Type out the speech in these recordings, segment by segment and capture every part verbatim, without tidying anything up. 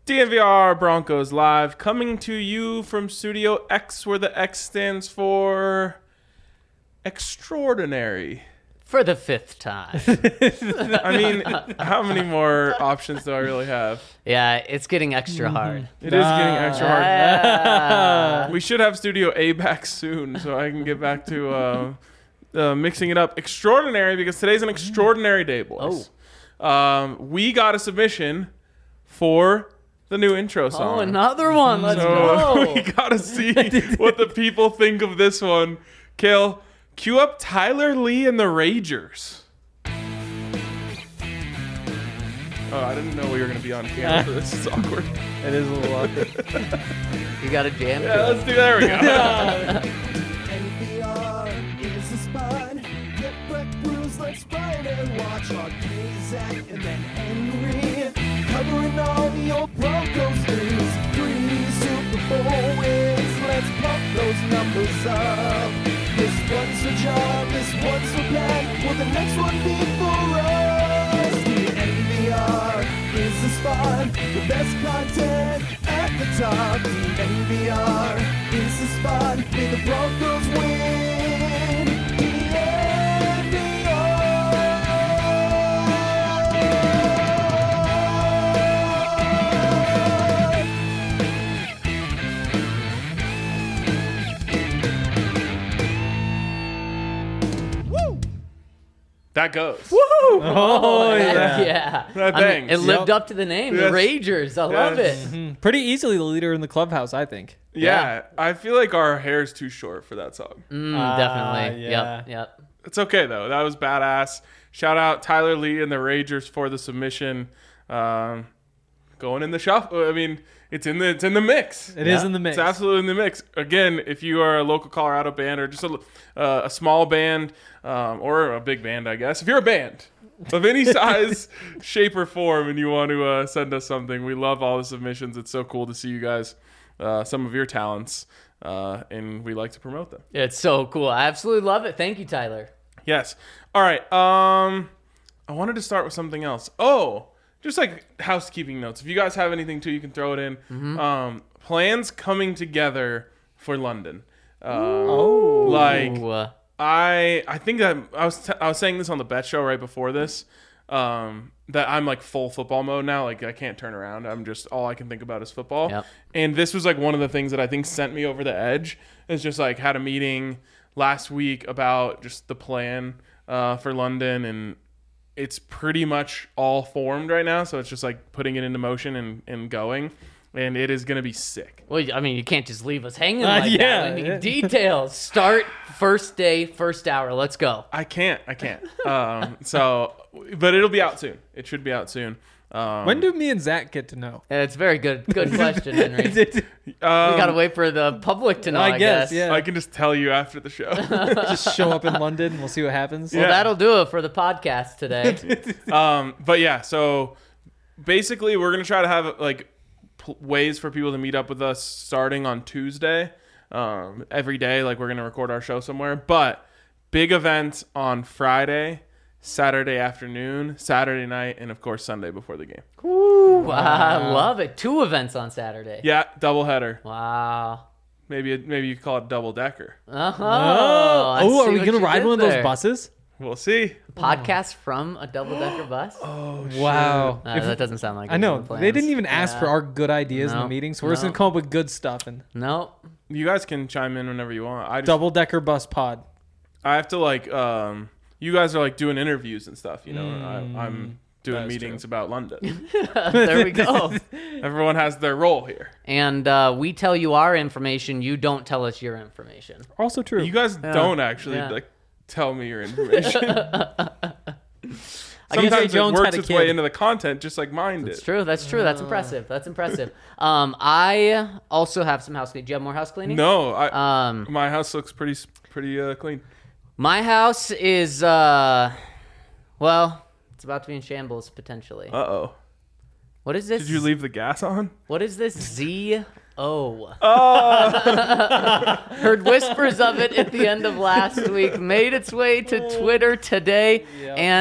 D N V R Broncos Live, coming to you from Studio X, where the X stands for extraordinary. For the fifth time. I mean, how many more options do I really have? Yeah, it's getting extra hard. It is getting extra hard. Ah. We should have Studio A back soon, so I can get back to uh, uh, mixing it up. Extraordinary, because today's an extraordinary day, boys. Oh. Um, we got a submission for the new intro song. Oh, another one. Let's so go. We gotta see what the people think of this one. Kale, cue up Tyler Lee and the Ragers. Oh, I didn't know we were gonna be on camera for this. It's awkward. It is a little awkward. You got a jam? Yeah, let's do. There we go. N P R is the spine. Get Breck Brews, let's ride and watch our K, Zach, and then Henry. Covering all your Broncos news. Three Super Bowl wins. Let's pump those numbers up. This one's a job, this one's a plan. Will the next one be for us? The N P R is the spot. The best content at the top. The N P R is the spot. May the Broncos win. The N P R. That goes. Woo! Oh, yeah. Yeah. That I mean, bangs. it lived Yep. up to the name, Yes. the Ragers. I love Yes. it. Mhm. Pretty easily the leader in the clubhouse, I think. Yeah, Yeah. I feel like our hair's too short for that song. Mm, Ah, definitely. yeah. Yep. Yep. It's okay though. That was badass. Shout out Tyler Lee and the Ragers for the submission. Um, going in the shuffle. I mean, it's in the it's in the mix. It is Yeah. in the mix. It's absolutely in the mix. Again, if you are a local Colorado band or just a, uh, a small band um, or a big band, I guess. If you're a band of any size, shape, or form, and you want to uh, send us something, we love all the submissions. It's so cool to see you guys, uh, some of your talents, uh, and we like to promote them. It's so cool. I absolutely love it. Thank you, Tyler. Yes. All right. Um, I wanted to start with something else. Oh, just like housekeeping notes. If you guys have anything too, you can throw it in. Mm-hmm. Um, plans coming together for London. Um, Oh. like Ooh, uh, I, I think that I was t- I was saying this on the Bet Show right before this. Um, that I'm like full football mode now. Like I can't turn around. I'm just all I can think about is football. Yep. And this was like one of the things that I think sent me over the edge. Is just like had a meeting last week about just the plan uh, for London, and it's pretty much all formed right now. So it's just like putting it into motion and, and going, and it is gonna be sick. well, I mean, you can't just leave us hanging Uh, like yeah. that. We need details. Start first day, first hour. Let's go. I can't. I can't. Um, so, but it'll be out soon. It should be out soon. Um, When do me and Zach get to know? Yeah, it's a very good, good question, Henry. we um, gotta wait for the public to know. I, I guess, yeah. I can just tell you after the show. Just show up in London. We'll see what happens. Well, Yeah. that'll do it for the podcast today. um, but yeah, so basically, we're gonna try to have like p- ways for people to meet up with us starting on Tuesday. Um, every day, like we're gonna record our show somewhere. But big events on Friday, Saturday afternoon, Saturday night, and of course Sunday before the game. Ooh, I love it. Two events on Saturday. Yeah, doubleheader. Wow. Maybe it, maybe you could call it double decker. Uh-huh. Oh, I oh are see we what gonna you ride did one of those there. buses? We'll see. Podcast from a double-decker bus? Oh, Wow. Uh, If- that doesn't sound like I it's know in the plans. they didn't even ask Yeah. for our good ideas in No. the meeting, so we're just No. gonna come up with good stuff and Nope. You guys can chime in whenever you want. I just, double decker bus pod. I have to like um you guys are like doing interviews and stuff, you know. Mm, I, I'm doing that is meetings about London. There we go. Everyone has their role here. And uh, we tell you our information. You don't tell us your information. Also true. You guys don't actually Yeah. like tell me your information. I guess Sometimes it Jones works had a its kid. way into the content just like mine did. That's true. That's true. That's impressive. That's impressive. Um, I also have some house cleaning. Do you have more house cleaning? No, I Um, my house looks pretty pretty uh, clean. my house is uh, well, it's about to be in shambles potentially. Uh oh. What is this? Did you leave the gas on? What is this Z O? Oh, Heard whispers of it at the end of last week. Made its way to Twitter today, Yep. and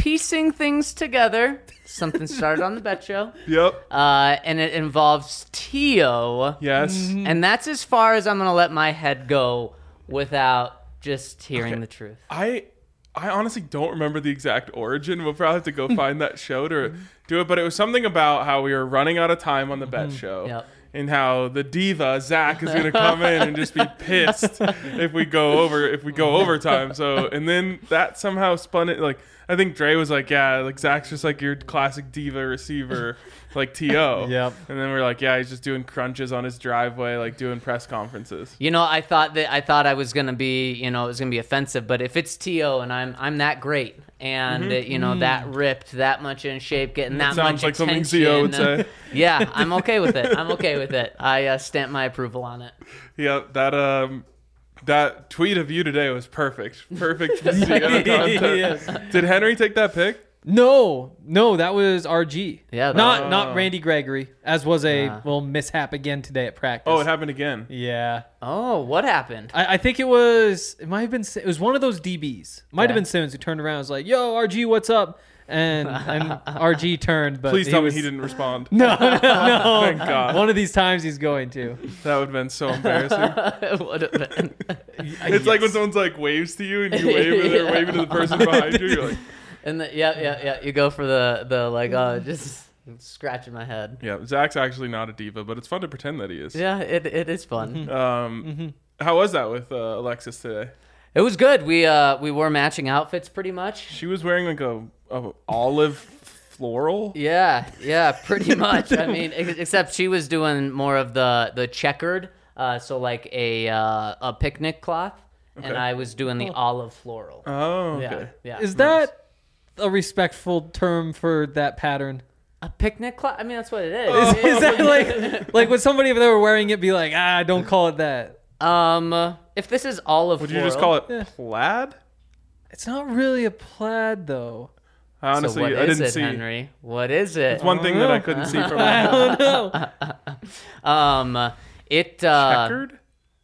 piecing things together. Something started on the Bet Show. Yep. Uh, and it involves Tio. Yes. And that's as far as I'm going to let my head go without just hearing Okay. the truth. I I honestly don't remember the exact origin. We'll probably have to go find that show to do it. But it was something about how we were running out of time on the Bet Show. Yep. And how the diva Zach is going to come in and just be pissed if we go over if we go overtime. So and then that somehow spun it. Like I think Dre was like, yeah, like Zach's just like your classic diva receiver, like T O. Yep. And then we're like, yeah, he's just doing crunches on his driveway, like doing press conferences. You know, I thought that I thought I was gonna be, you know, it was gonna be offensive, but if it's T O and I'm I'm that great and uh, you know that ripped, that much in shape, getting that Sounds much like something attention, Z O would uh, say. yeah, I'm okay with it. I'm okay with it. I uh, stamp my approval on it. Yeah, that um, that tweet of you today was perfect. Perfect for C O content. Did Henry take that pic? No, no, that was R G. Yeah, that- not Oh. not Randy Gregory, as was a Ah. little mishap again today at practice. Oh, it happened again. Yeah, Oh, what happened? I, I think it was. It might have been. It was one of those D Bs. Might have Okay. been Simmons who turned around and was like, "Yo, R G, what's up?" And and R G turned, but Please tell was, me he didn't respond. No, no, no. Thank God. One of these times he's going to. That would have been so embarrassing. It would have been. It's like when someone's like waves to you and you wave and they're Yeah. waving to the person behind you. You're like, And the, yeah, yeah, yeah. You go for the the like, oh, just scratching my head. yeah, Zach's actually not a diva, but it's fun to pretend that he is. Yeah, it it is fun. Um, how was that with uh, Alexis today? It was good. We uh we wore matching outfits pretty much. She was wearing like a, a olive floral. Yeah, yeah, pretty much. I mean, ex- except she was doing more of the the checkered, uh, so like a uh, a picnic cloth, and Okay. I was doing the olive floral. Oh, yeah, okay. yeah. Is that a respectful term for that pattern? a picnic cloth? I mean, that's what it is. Is that like like would somebody if they were wearing it be like, ah, don't call it that? Um, if this is olive Would floral, you just call it Yeah. plaid? It's not really a plaid though. I honestly, so what I is didn't it, see. Henry? What is it? It's one thing that I couldn't see from I my don't know. Um, it uh, checkered.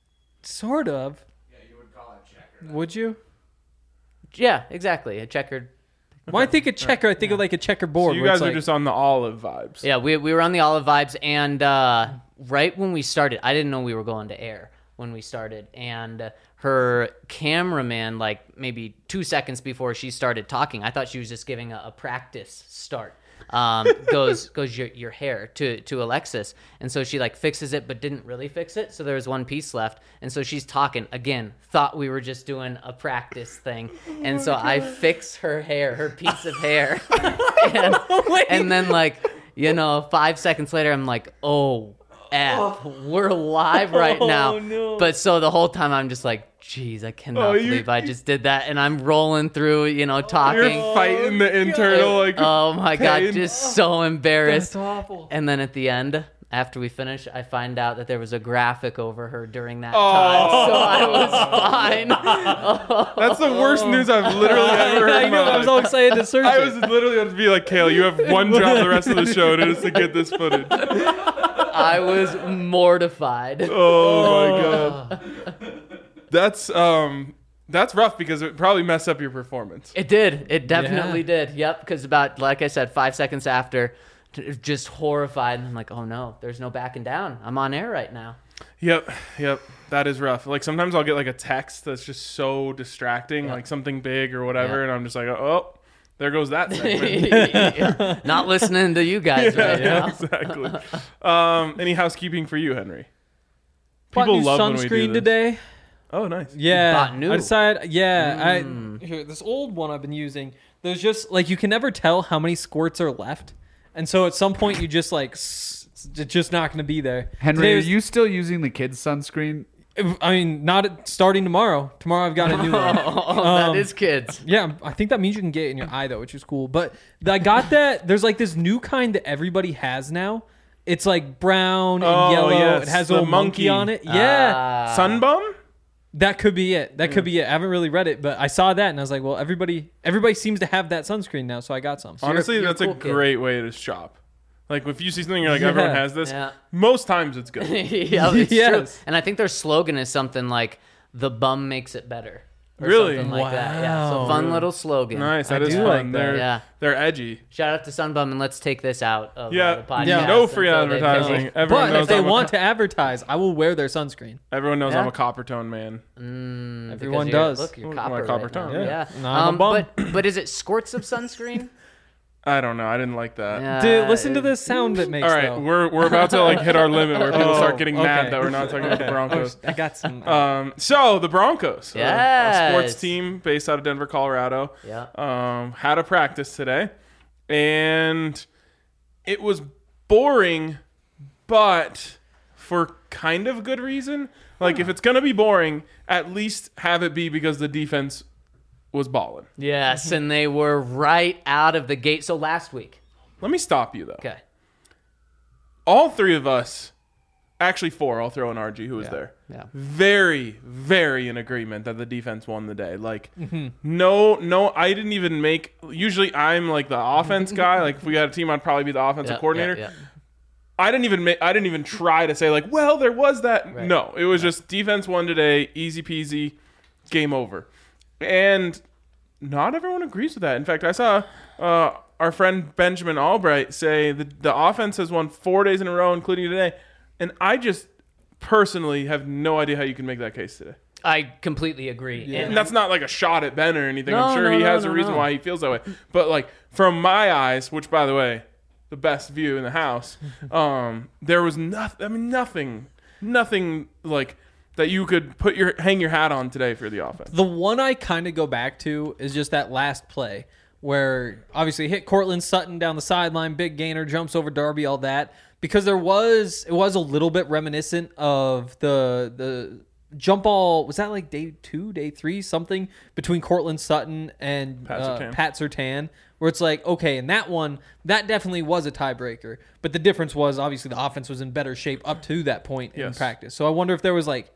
Sort of. Yeah, you would call it checker. Would you? yeah, exactly, a checkered. When I think of checker, I think of like a So checkerboard. you where guys it's are like, just on the olive vibes. Yeah, we we were on the olive vibes, and uh, right when we started, I didn't know we were going to air when we started, and uh, her cameraman, like maybe two seconds before she started talking, I thought she was just giving a, a practice start. Um, goes goes your your hair to to Alexis, and so she like fixes it, but didn't really fix it. So there was one piece left, and so she's talking again. Thought we were just doing a practice thing, and so I fix her hair, her piece of hair, and, and then like you know, five seconds later, I'm like, oh. F, we're live right now. Oh, no. But so the whole time I'm just like, geez, I cannot Oh, you- believe I just did that. And I'm rolling through, you know, talking. You're fighting the internal like. Oh my God, pain. just so embarrassed. That's awful. And then at the end, after we finish, I find out that there was a graphic over her during that Oh. time. So I was fine. That's the worst news I've literally ever heard. I in my know. I was life. all excited to search I it. was literally going to be like, Kale, you have one job the rest of the show, and it's to get this footage. I was mortified. Oh my god, that's um, that's rough because it probably messed up your performance. It did. It definitely Yeah. did. Yep. Because about, like I said, five seconds after, t- just horrified. And I'm like, oh no, there's no backing down. I'm on air right now. Yep, yep, that is rough. Like sometimes I'll get like a text that's just so distracting, Yeah. like something big or whatever, Yeah. and I'm just like, oh, there goes that segment. Not listening to you guys right yeah, now. exactly. Um, any housekeeping for you, Henry? Bought People new love when we do sunscreen this. today. Oh, nice. Yeah, bought new. I decided. Yeah, Mm. I here this old one I've been using. There's just like you can never tell how many squirts are left, and so at some point you just like s- it's just not going to be there. Henry, Today are was- you still using the kids' sunscreen? I mean, not at- starting tomorrow. Tomorrow I've got a new one. Oh, Um, that is kids. Yeah, I think that means you can get it in your eye though, which is cool. But I got that. There's like this new kind that everybody has now. It's like brown and Oh, yellow. yes, It has a the little monkey. monkey. on it. Yeah, Ah. Sunbum? that could be it. That could be it. I haven't really read it, but I saw that and I was like, well, everybody, everybody seems to have that sunscreen now, so I got some. Honestly, you're a that's a cool kid. great way to shop. Like if you see something, you're like, everyone Yeah. has this. Yeah. Most times it's good. Yeah, it's Yes. true. And I think their slogan is something like, the bum makes it better. or Really? something like that. Yeah, so Wow. fun little slogan. Nice. I That is do fun. like that. They're Yeah. they're edgy. Shout out to Sunbum, and let's take this out of Yeah. uh, the podcast. Yeah. No free until they advertising. finish. Everyone But knows if they I'm a want co- to advertise, I will wear their sunscreen. Everyone knows Yeah. I'm a copper tone man. Mm, because Everyone you're- does. Look, you're Look, copper. my copper right now. tone. Yeah. Yeah. No, I'm a Um, bum. but but is it squirts of sunscreen? I don't know. I didn't like that. Yeah, Dude, listen to it- this sound it makes. All right, though. we're we're about to like hit our limit where people Oh, start getting mad okay. that we're not talking about the Okay. Broncos. Oh, I got some. Um, so the Broncos, uh, a sports Yes. team based out of Denver, Colorado, Yeah. um, had a practice today, and it was boring, but for kind of good reason. Like if it's gonna be boring, at least have it be because the defense was balling. Yes, and they were right out of the gate. So last week. Let me stop you though. Okay. All three of us, actually four, I'll throw in R G who was Yeah. there. Yeah. Very, very in agreement that the defense won the day. Like, no, no, I didn't even make. Usually, I'm like the offense guy. Like, if we had a team, I'd probably be the offensive Yeah, coordinator. yeah, yeah. I didn't even make. I didn't even try to say like, well, there was that. Right. No, it was just defense won today, easy peasy, game over. And not everyone agrees with that. In fact, I saw uh, our friend Benjamin Albright say the the offense has won four days in a row, including today. And I just personally have no idea how you can make that case today. I completely agree. And that's not like a shot at Ben or anything. No, I'm sure no, he no, has no, a reason no. why he feels that way. But like from my eyes, which by the way, the best view in the house, um, there was nothing. I mean, nothing, nothing like that you could put your hang your hat on today for the offense. The one I kind of go back to is just that last play where obviously hit Cortland Sutton down the sideline, big gainer, jumps over Darby, all that. Because there was, it was a little bit reminiscent of the the jump ball. Was that like day two, day three, something between Cortland Sutton and Pat uh, Surtain. Pat Surtain, where it's like, okay, in that one, that definitely was a tiebreaker. But the difference was obviously the offense was in better shape up to that point in Yes. practice. So I wonder if there was like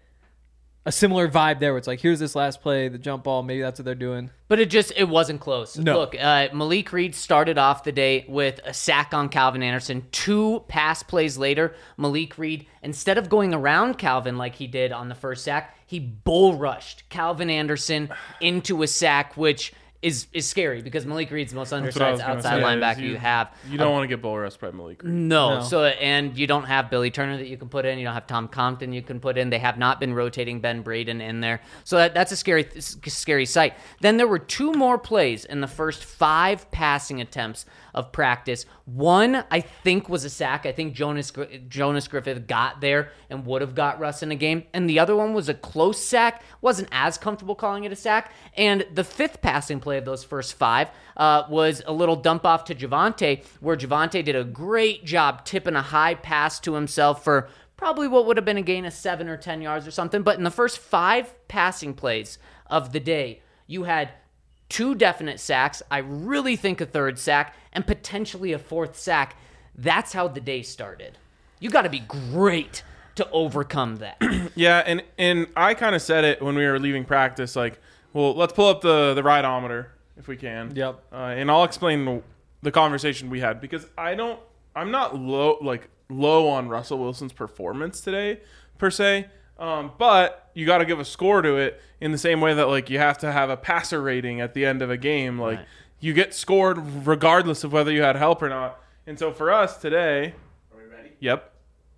a similar vibe there where it's like, here's this last play, the jump ball, maybe that's what they're doing. But it just, it wasn't close. No. Look, uh, Malik Reed started off the day with a sack on Calvin Anderson. Two pass plays later, Malik Reed, instead of going around Calvin like he did on the first sack, he bull rushed Calvin Anderson into a sack, which is is scary because Malik Reed's the most what I undersized was gonna outside say, linebacker is you, have. You don't want to get bull rushed by Malik Reed. No. No. So, and you don't have Billy Turner that you can put in. You don't have Tom Compton you can put in. They have not been rotating Ben Braden in there. So that, that's a scary, scary sight. Then there were two more plays in the first five passing attempts of practice. One, I think, was a sack. I think Jonas Gr- Jonas Griffith got there and would have got Russ in a game. And the other one was a close sack. Wasn't as comfortable calling it a sack. And the fifth passing play of those first five uh, was a little dump off to Javonte, where Javonte did a great job tipping a high pass to himself for probably what would have been a gain of seven or ten yards or something. But in the first five passing plays of the day, you had two definite sacks. I really think a third sack and potentially a fourth sack. That's how the day started. You got to be great to overcome that. Yeah, and and I kind of said it when we were leaving practice. Like, well, let's pull up the the rideometer if we can. Yep. Uh, and I'll explain the, the conversation we had because I don't. I'm not low like low on Russell Wilson's performance today per se. Um, but you got to give a score to it in the same way that like you have to have a passer rating at the end of a game. Like Right. you get scored regardless of whether you had help or not. And so for us today, are we ready? Yep.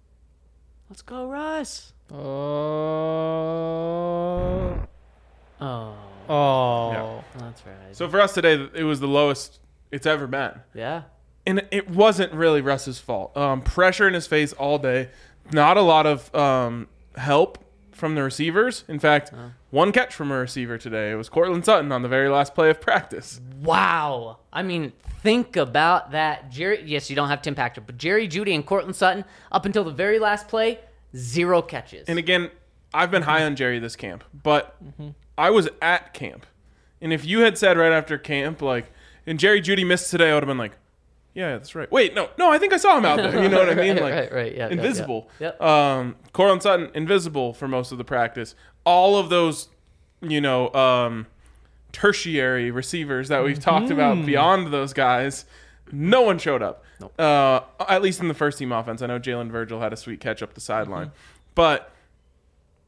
Let's go, Russ. Oh. Oh, Oh. Yeah. that's right. So for us today, it was the lowest it's ever been. Yeah. And it wasn't really Russ's fault. Um, pressure in his face all day. Not a lot of um, help from the receivers. In fact, one catch from a receiver today. It was Cortland Sutton on the very last play of practice. Wow. I mean, think about that. Jerry, yes, you don't have Tim Patrick, but Jerry Jeudy and Cortland Sutton, up until the very last play, zero catches. And again, I've been high on Jerry this camp, but I was at camp. And if you had said right after camp, like, and Jerry Jeudy missed today, I would have been like, yeah, that's right. Wait, no, no, I think I saw him out there. You know what I mean? Right, Like, right, right. Yeah, yeah, invisible. yeah. Yep. Um, Cortland Sutton, invisible for most of the practice. All of those, you know, um, tertiary receivers that we've talked about beyond those guys, no one showed up. Uh, at least in the first team offense. I know Jalen Virgil had a sweet catch up the sideline. But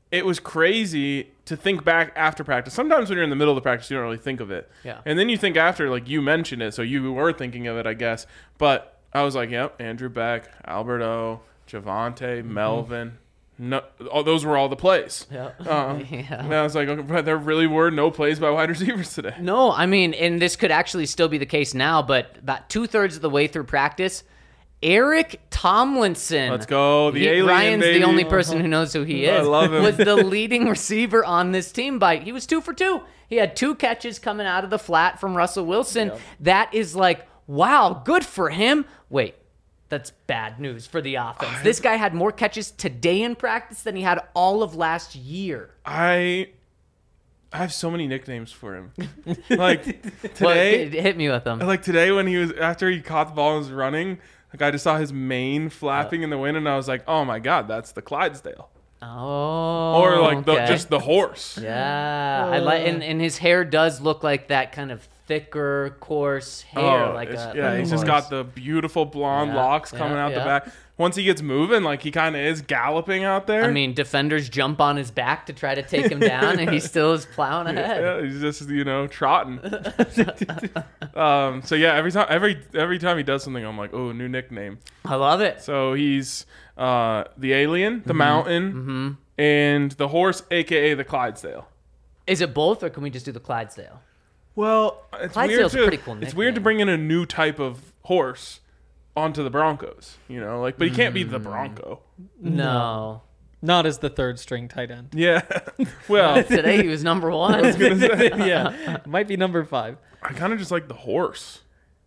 it was crazy to think back after practice. Sometimes when you're in the middle of the practice, you don't really think of it. Yeah. And then you think after, like you mentioned it, so you were thinking of it, I guess. But I was like, yep, Andrew Beck, Alberto, Javante, Mm-hmm. Melvin. No, all, those were all the plays. Yeah. Uh, Yeah. And I was like, okay, but there really were no plays by wide receivers today. No, I mean, and this could actually still be the case now, but about two thirds of the way through practice, Eric Tomlinson. Let's go, the He- alien, Ryan's baby. the only person who knows who he I is. love him. Was the leading receiver on this team by he was two for two. He had two catches coming out of the flat from Russell Wilson. That is like, wow, good for him. Wait, that's bad news for the offense. This guy had more catches today in practice than he had all of last year. I I have so many nicknames for him. Like Well, today, hit, hit me with them. like today when he was after he caught the ball and was running, like I just saw his mane flapping in the wind, and I was like, oh my god, that's the Clydesdale, Oh, or like the, okay. just the horse. Yeah, I like, and, and his hair does look like that kind of thicker, coarse hair, Oh, like it's- a yeah, like he's a just horse. got the beautiful blonde Yeah, locks coming yeah, out yeah. the back. Once he gets moving, like he kind of is galloping out there. I mean, defenders jump on his back to try to take him down, and he still is plowing ahead. yeah, he's just you know trotting. um, so yeah, every time every every time he does something, I'm like, oh, new nickname. I love it. So he's uh, the alien, the mountain, and the horse, aka the Clydesdale. Is it both, or can we just do the Clydesdale? Well, it's Clydesdale's weird a to pretty cool it's weird to nickname. bring in a new type of horse onto the Broncos. You know, like, but he can't be the Bronco. No. Not as the third string tight end. Yeah. Well, Today he was number one. Yeah, might be number five. I kind of just like the horse.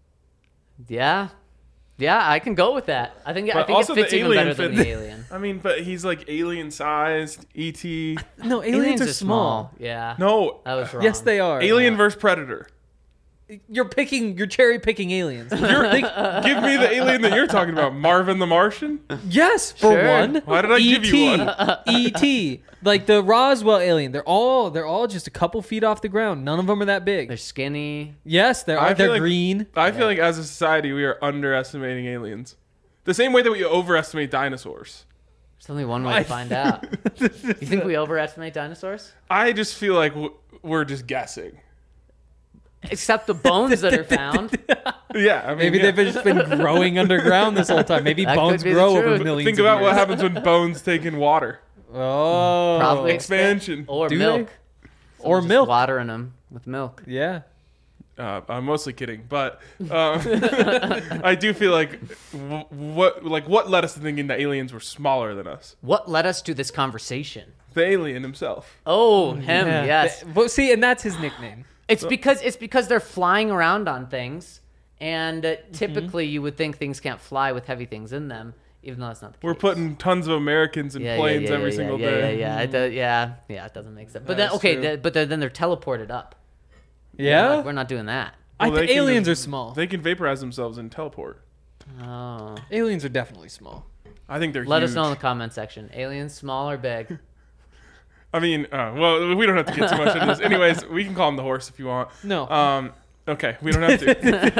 yeah. Yeah, I can go with that. I think I But think also it the fits even alien better than fit- the alien. I mean, but he's like alien sized, E T. No, aliens, are small. Yeah. No, That was wrong. Yes, they are. Alien versus Predator. You're picking. You're cherry picking aliens. You're, give me the alien that you're talking about, Marvin the Martian. Yes, for Sure. one. Why did I give you one? E T. Like the Roswell alien. They're all. They're all just a couple feet off the ground. None of them are that big. They're skinny. Yes, they're. I feel They're like- green. I feel like as a society we are underestimating aliens. The same way that we overestimate dinosaurs. There's only one way to find out. You think we overestimate dinosaurs? I just feel like w- we're just guessing. Except the bones that are found. Yeah, I mean, Maybe yeah. they've just been growing underground this whole time. Maybe That bones could be the grow over truth. millions. Think of about what years. happens when bones take in water. Oh, Probably Expansion. Or Do milk. or Just milk. Watering them with milk. Yeah. Uh, I'm mostly kidding, but um, I do feel like w- what like what led us to thinking that aliens were smaller than us. What led us to this conversation? The alien himself. Oh, him. Yeah. Yes. Th- Well, see, and that's his nickname. It's because it's because they're flying around on things, and uh, typically you would think things can't fly with heavy things in them, even though that's not the We're case. putting tons of Americans in yeah, planes yeah, yeah, every yeah, single yeah, day. Yeah, yeah, it does, yeah, yeah. It doesn't make sense. But then, That's okay, true. th- but they're, then they're teleported up. Yeah. Like, we're not doing that. I Well, they think can aliens just- are small. They can vaporize themselves and teleport. Oh, aliens are definitely small. I think they're let huge. us know in the comment section. Aliens, small or big? I mean, uh, well, we don't have to get too much into this. Anyways, we can call him the horse if you want. No. Um, okay, we don't have to.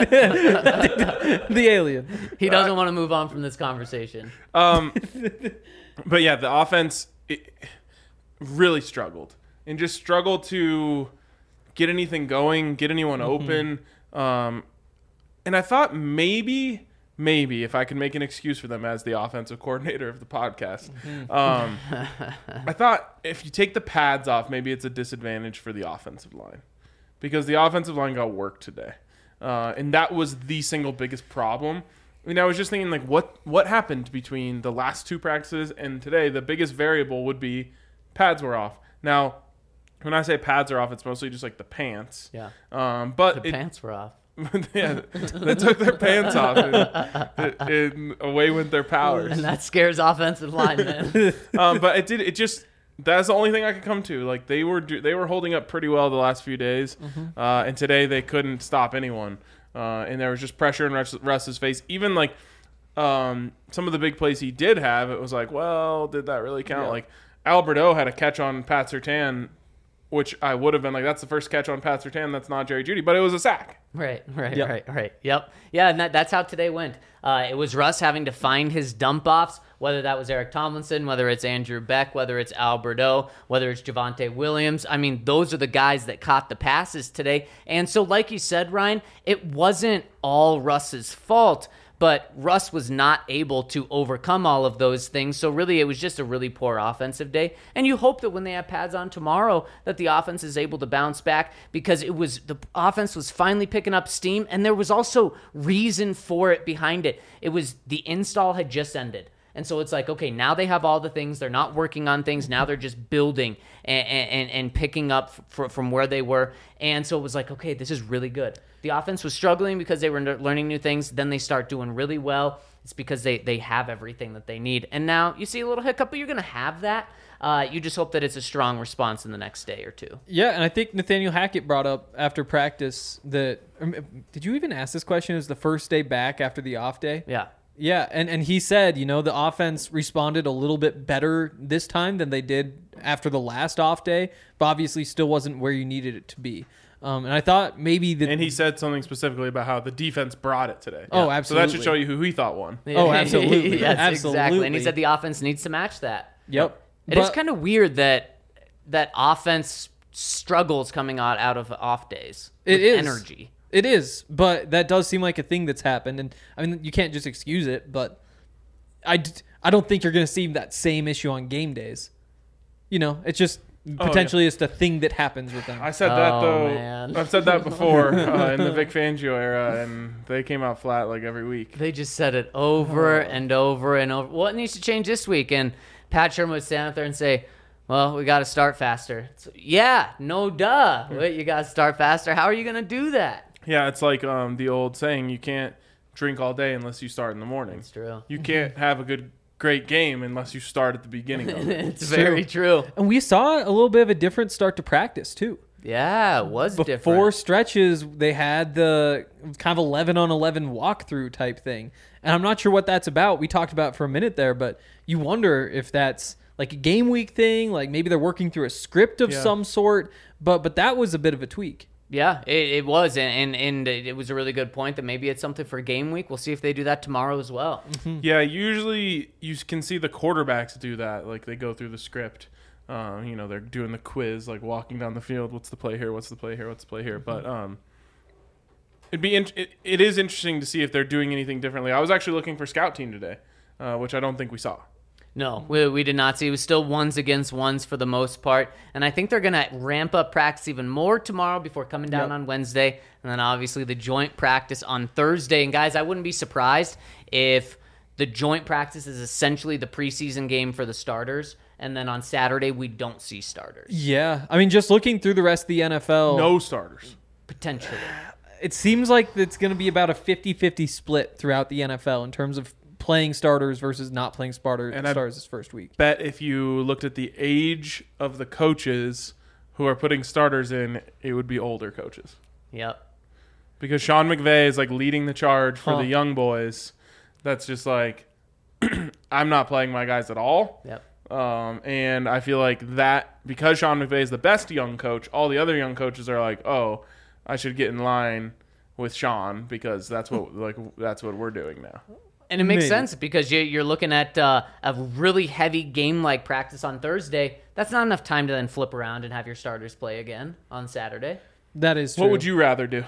The alien. He doesn't want to move on from this conversation. Um, but yeah, the offense it really struggled and just struggled to get anything going, get anyone open. Um, and I thought maybe, maybe if I could make an excuse for them as the offensive coordinator of the podcast, um, I thought if you take the pads off, maybe it's a disadvantage for the offensive line because the offensive line got work today. Uh, and that was the single biggest problem. I mean, I was just thinking, like, what what happened between the last two practices and today? The biggest variable would be pads were off. Now, when I say pads are off, it's mostly just like the pants. Yeah. Um, but The it, pants were off. yeah, they took their pants off, and, and away went their powers. And that scares offensive linemen. Um, but it did. It just that's the only thing I could come to. Like they were do, they were holding up pretty well the last few days, uh, and today they couldn't stop anyone. Uh, and there was just pressure in Russ, Russ's face. Even like um, some of the big plays he did have, it was like, well, did that really count? Yeah. Like Alberto had a catch on Pat Surtain, which I would have been like, that's the first catch on Pat Surtain. That's not Jerry Jeudy, but it was a sack. Right, right, Yep. right, right. Yep. Yeah, and that, that's how today went. Uh, it was Russ having to find his dump offs, whether that was Eric Tomlinson, whether it's Andrew Beck, whether it's Alberto, whether it's Javonte Williams. I mean, those are the guys that caught the passes today. And so, like you said, Ryan, it wasn't all Russ's fault, but Russ was not able to overcome all of those things. So really, it was just a really poor offensive day. And you hope that when they have pads on tomorrow, that the offense is able to bounce back, because it was the offense was finally picking up steam, and there was also reason for it behind it. It was the install had just ended. And so it's like, okay, now they have all the things. They're not working on things. Now they're just building and and, and picking up f- from where they were. And so it was like, okay, this is really good. The offense was struggling because they were learning new things. Then they start doing really well. It's because they, they have everything that they need. And now you see a little hiccup, but you're going to have that. Uh, you just hope that it's a strong response in the next day or two. Yeah, and I think Nathaniel Hackett brought up after practice that um, – did you even ask this question? It was the first day back after the off day? Yeah. Yeah, and, and he said, you know, the offense responded a little bit better this time than they did after the last off day, but obviously still wasn't where you needed it to be. Um, and I thought maybe the And he said something specifically about how the defense brought it today. Oh, So absolutely. that should show you who he thought won. Oh, absolutely. yes, Absolutely. exactly. And he said the offense needs to match that. Yep. It is kind of weird that that offense struggles coming out, out of off days with It is. energy. It is, but that does seem like a thing that's happened. And I mean, you can't just excuse it, but I, d- I don't think you're going to see that same issue on game days. You know, it's just potentially it's the thing that happens with them. I said that, Oh, though. man. I've said that before uh, in the Vic Fangio era, and they came out flat like every week. They just said it over and over and over. What needs to change this week? And Pat Sherman would stand up there and say, well, we got to start faster. It's, yeah, no duh. Wait, you got to start faster. How are you going to do that? Yeah, it's like um, the old saying, you can't drink all day unless you start in the morning. It's true. You can't have a good, great game unless you start at the beginning of it. It's very true. And we saw a little bit of a different start to practice, too. Yeah, it was Before different. stretches, they had the kind of eleven on eleven walkthrough type thing. And I'm not sure what that's about. We talked about it for a minute there, but you wonder if that's like a game week thing, like maybe they're working through a script of Yeah. some sort. But but that was a bit of a tweak. Yeah, it, it was, and, and and it was a really good point that maybe it's something for game week. We'll see if they do that tomorrow as well. Yeah, usually you can see the quarterbacks do that. Like they go through the script. Um, you know, they're doing the quiz, like walking down the field. What's the play here? What's the play here? What's the play here? But um, it'd be in- it, it is interesting to see if they're doing anything differently. I was actually looking for scout team today, uh, which I don't think we saw. No, we, we did not see. It was still ones against ones for the most part. And I think they're going to ramp up practice even more tomorrow before coming down Yep. on Wednesday. And then obviously the joint practice on Thursday. And guys, I wouldn't be surprised if the joint practice is essentially the preseason game for the starters. And then on Saturday, we don't see starters. Yeah. I mean, just looking through the rest of the N F L, No starters. Potentially. it seems like it's going to be about a fifty-fifty split throughout the N F L in terms of playing starters versus not playing starters, And I- starters this first week. Bet if you looked at the age of the coaches who are putting starters in, it would be older coaches. Yep. Because Sean McVay is like leading the charge for Huh. the young boys. That's just like, I'm not playing my guys at all. Yep. Um, and I feel like that, because Sean McVay is the best young coach, all the other young coaches are like, oh, I should get in line with Sean because that's what like that's what we're doing now. And it makes Maybe. sense because you, you're looking at uh, a really heavy game-like practice on Thursday. That's not enough time to then flip around and have your starters play again on Saturday. That is true. What would you rather do?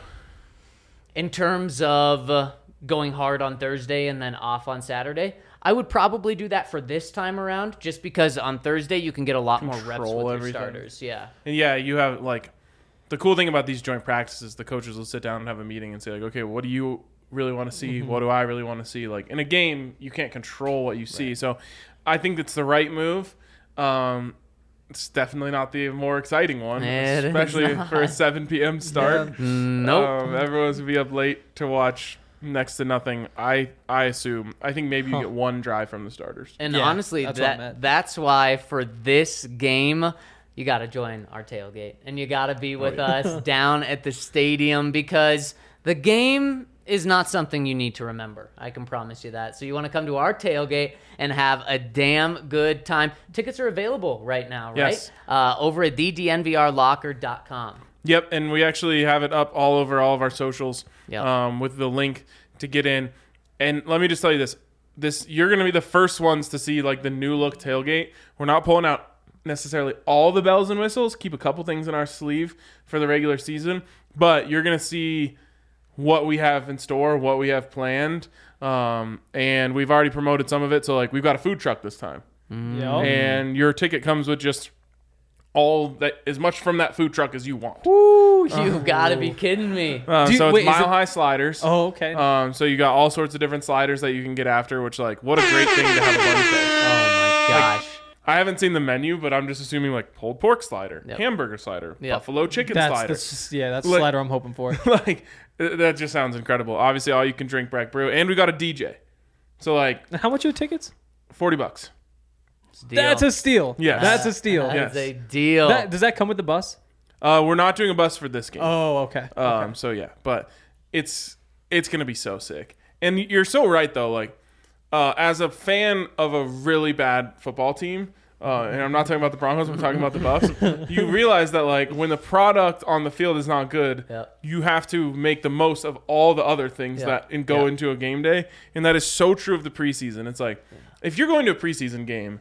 In terms of uh, going hard on Thursday and then off on Saturday, I would probably do that for this time around just because on Thursday you can get a lot more reps Control with your everything. starters. Yeah. And yeah, you have like the cool thing about these joint practices, the coaches will sit down and have a meeting and say like, okay, what do you really want to see? Mm-hmm. What do I really want to see? Like in a game, you can't control what you see. So I think it's the right move. Um, it's definitely not the more exciting one, It is especially not. for a seven p.m. start. Nope. Um, everyone's gonna be up late to watch next to nothing. I I assume. I think maybe you Huh. get one drive from the starters. And Yeah, honestly, that's what I that meant. that's why for this game, you got to join our tailgate and you got to be with us down at the stadium because the game is not something you need to remember. I can promise you that. So you want to come to our tailgate and have a damn good time. Tickets are available right now, right? Yes. Uh, over at the d n v r locker dot com. Yep, and we actually have it up all over all of our socials Yep. um, with the link to get in. And let me just tell you this. this you're going to be the first ones to see like the new look tailgate. We're not pulling out necessarily all the bells and whistles. Keep a couple things in our sleeve for the regular season, but you're going to see what we have in store, what we have planned, um, and we've already promoted some of it. So like we've got a food truck this time, Yep. and your ticket comes with just all that as much from that food truck as you want. Ooh, you gotta be kidding me. Uh, Do you- so it's wait, is mile it- high sliders. Oh, okay. Um, so you got all sorts of different sliders that you can get after, which like what a great thing to have a bunch of. Oh my gosh. I haven't seen the menu, but I'm just assuming like pulled pork slider, Yep. hamburger slider, Yep. buffalo chicken that's, slider. that's just, yeah, that's the Like- slider I'm hoping for. Like th- that just sounds incredible. Obviously, all you can drink Breck Brew, and we got a D J. So like How much are tickets? forty bucks. It's a deal. That's a steal. Yes. That's a steal. That Yes. is a deal. That, does that come with the bus? Uh, we're not doing a bus for this game. Oh, okay. Um, so yeah, but it's it's gonna be so sick. And you're so right though. Like uh, as a fan of a really bad football team, uh, and I'm not talking about the Broncos, I'm talking about the Buffs. You realize that like when the product on the field is not good, Yep. you have to make the most of all the other things Yep. that and go Yep. into a game day, and that is so true of the preseason. It's like if you're going to a preseason game,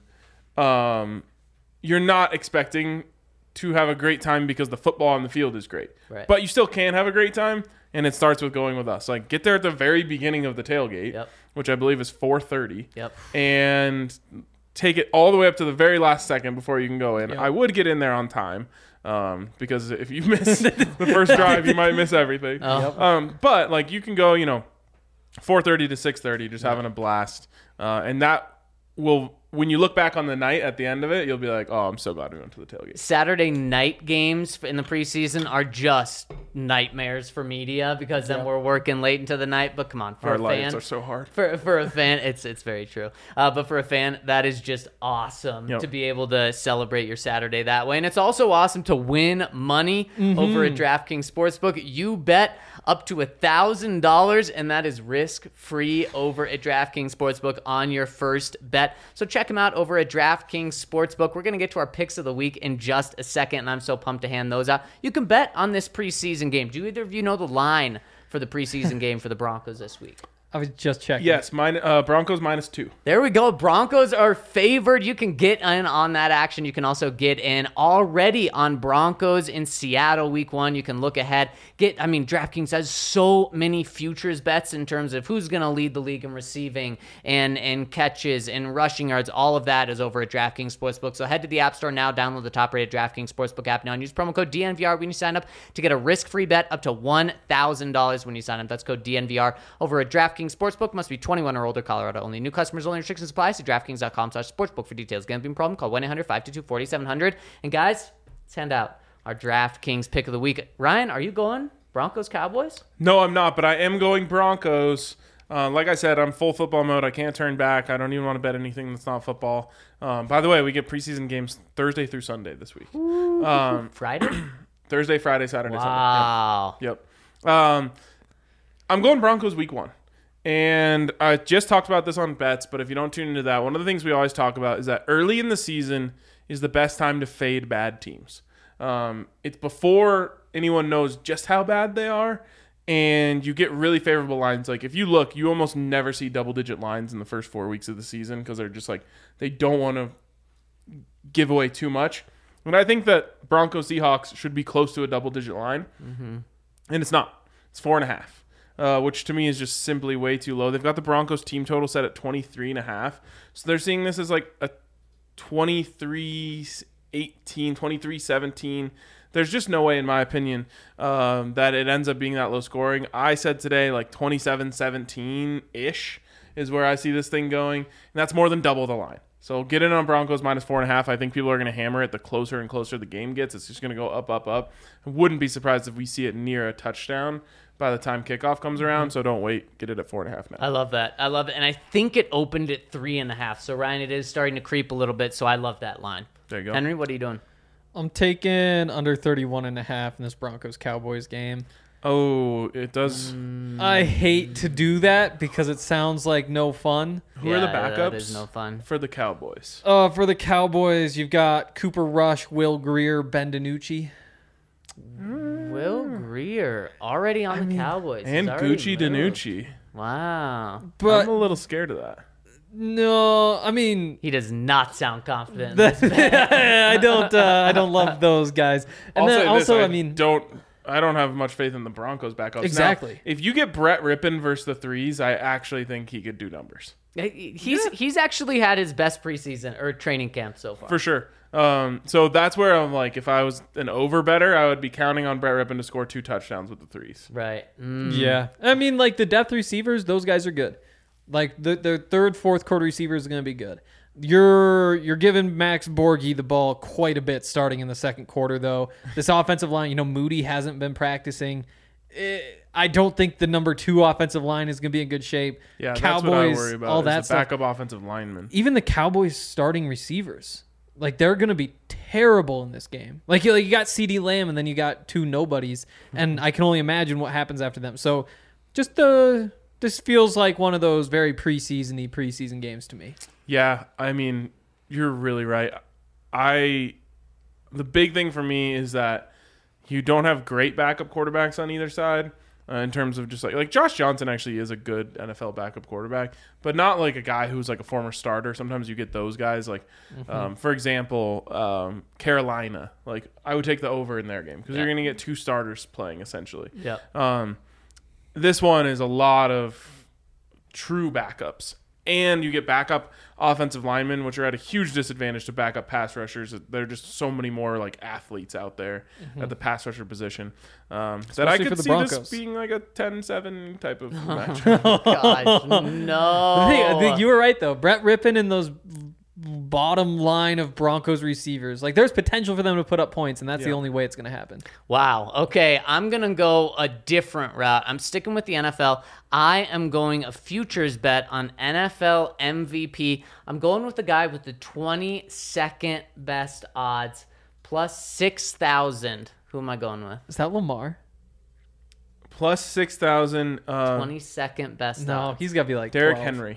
um, you're not expecting to have a great time because the football on the field is great. Right. But you still can have a great time, and it starts with going with us. Like get there at the very beginning of the tailgate, Yep. which I believe is four thirty, Yep. and take it all the way up to the very last second before you can go in. Yep. I would get in there on time um, because if you miss the first drive, you might miss everything. Oh. Um, but like you can go, you know, four thirty to six thirty, just having a blast, uh, and that will. When you look back on the night at the end of it, you'll be like, "Oh, I'm so glad we went to the tailgate." Saturday night games in the preseason are just nightmares for media because then Yeah. we're working late into the night. But come on, for Our a lives fan, are so hard. for for a fan, it's it's very true. Uh, but for a fan, that is just awesome Yep. to be able to celebrate your Saturday that way, and it's also awesome to win money Mm-hmm. over at DraftKings Sportsbook. You bet up to a thousand dollars, and that is risk free over at DraftKings Sportsbook on your first bet. So check them out over at DraftKings Sportsbook. We're gonna get to our picks of the week in just a second, and I'm so pumped to hand those out. You can bet on this preseason game. Do either of you know the line for the preseason game for the Broncos this week? I was just checking. Yes, mine, uh, Broncos minus two. There we go. Broncos are favored. You can get in on that action. You can also get in already on Broncos in Seattle week one. You can look ahead. Get, I mean, DraftKings has so many futures bets in terms of who's going to lead the league in receiving and, and catches and rushing yards. All of that is over at DraftKings Sportsbook. So head to the App Store now, download the top-rated DraftKings Sportsbook app now, and use promo code D N V R when you sign up to get a risk-free bet up to one thousand dollars when you sign up. That's code D N V R over at DraftKings Sportsbook. Must be twenty-one or older. Colorado only. New customers only. Restrictions apply. See DraftKings.com slash sportsbook for details. Gambling problem? Call one eight hundred five two two four seven zero zero. And guys, let's hand out our DraftKings pick of the week. Ryan, are you going Broncos Cowboys? No, I'm not, but I am going Broncos. Uh, like I said, I'm full football mode. I can't turn back. I don't even want to bet anything that's not football. Um, by the way, we get preseason games Thursday through Sunday this week. Um, Friday? Thursday, Friday, Saturday, Wow. Sunday. Yep. yep. Um, I'm going Broncos week one. And I just talked about this on bets, but if you don't tune into that, one of the things we always talk about is that early in the season is the best time to fade bad teams. Um, it's before anyone knows just how bad they are, and you get really favorable lines. Like if you look, you almost never see double-digit lines in the first four weeks of the season because they're just like they don't want to give away too much. And I think that Broncos Seahawks should be close to a double-digit line, mm-hmm. and it's not. It's four and a half. Uh, which to me is just simply way too low. They've got the Broncos team total set at twenty-three and a half. So they're seeing this as like a twenty-three eighteen, twenty-three seventeen. There's just no way, in my opinion, um, that it ends up being that low scoring. I said today like twenty-seven seventeen-ish is where I see this thing going. And that's more than double the line. So get in on Broncos minus four and a half. I think people are going to hammer it the closer and closer the game gets. It's just going to go up, up, up. I wouldn't be surprised if we see it near a touchdown by the time kickoff comes around. So don't wait. Get it at four and a half now. I love that. I love it. And I think it opened at three and a half. So, Ryan, it is starting to creep a little bit. So I love that line. There you go. Henry, what are you doing? I'm taking under thirty-one and a half in this Broncos Cowboys game. Oh, it does. I hate to do that because it sounds like no fun. Who are the Yeah, backups? That is no fun. For the Cowboys. Uh, for the Cowboys, you've got Cooper Rush, Will Greer, Ben DiNucci. Will Greer already on the Cowboys. He's And already Gucci moved. DiNucci. Wow. I'm But a little scared of that. No, I mean, He does not sound confident. in the- this. I don't. Uh, I don't love those guys. And I'll then say also, this, I mean, don't. I don't have much faith in the Broncos backups. Exactly. Now, if you get Brett Rippon versus the threes, I actually think he could do numbers He's he's actually had his best preseason or training camp so far. for sure. Um, so that's where I'm like, if I was an over better, I would be counting on Brett Rippon to score two touchdowns with the threes. Right. Mm. yeah. I mean, like the depth receivers, those guys are good. Like the the third, fourth quarter receivers are going to be good. You're you're giving Max Borghi the ball quite a bit starting in the second quarter, though. This offensive line, you know, Moody hasn't been practicing. Eh, I don't think the number two offensive line is going to be in good shape. Yeah, Cowboys, that's what I worry about. all is that the stuff. backup offensive lineman. Even the Cowboys starting receivers, like they're going to be terrible in this game. Like you, like you got CeeDee Lamb and then you got two nobodies, and I can only imagine what happens after them. So, just the this feels like one of those very preseason-y preseason games to me. Yeah, I mean, you're really right. I the big thing for me is that you don't have great backup quarterbacks on either side. Uh, in terms of just like like Josh Johnson actually is a good N F L backup quarterback, but not like a guy who's like a former starter. Sometimes you get those guys like, Mm-hmm. um, for example, um, Carolina. Like I would take the over in their game because Yeah. you're going to get two starters playing essentially. Yep. Um, this one is a lot of true backups, and you get backup offensive linemen, which are at a huge disadvantage to backup pass rushers. There are just so many more like athletes out there at the pass rusher position um, that I Especially for could the see Broncos. this being like a ten seven type of match. Gosh, no. I think, I think you were right though. Brett Rippon and those bottom line of Broncos receivers, like there's potential for them to put up points, and that's the Yeah. only way it's going to happen. Wow. Okay, I'm going to go a different route. I'm sticking with the N F L. I am going a futures bet on N F L M V P. I'm going with the guy with the twenty-second best odds, plus six thousand. Who am I going with? Is that Lamar? Plus six thousand. Uh, twenty-second best No, odds. he's got to be like Derrick twelve. Henry.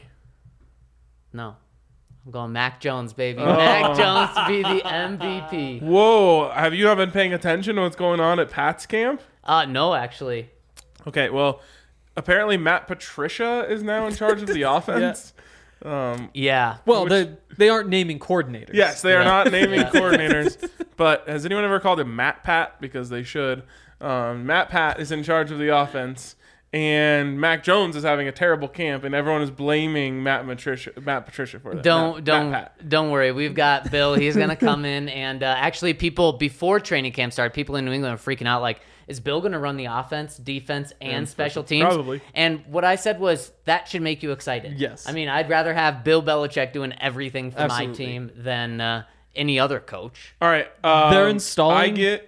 No. I'm going Mac Jones, baby. Oh. Mac Jones to be the M V P. Whoa! Have you not been paying attention to what's going on at Pat's camp? Uh, no, actually. Okay, well, apparently Matt Patricia is now in charge of the offense. Um, Yeah. Well, Which- they they aren't naming coordinators. Yes, they are Yeah. not naming Yeah. coordinators. But has anyone ever called him Matt Pat? Because they should. Um, Matt Pat is in charge of the offense, and Mac Jones is having a terrible camp, and everyone is blaming Matt Patricia, Matt Patricia for that. Don't Matt, don't Matt Pat. don't worry. We've got Bill. He's gonna come in, and uh, actually, people before training camp started, people in New England are freaking out. Like, is Bill gonna run the offense, defense, and, And special special- teams? probably. And what I said was that should make you excited. Yes. I mean, I'd rather have Bill Belichick doing everything for my Absolutely. team than uh, any other coach. All right, um, They're installing- I get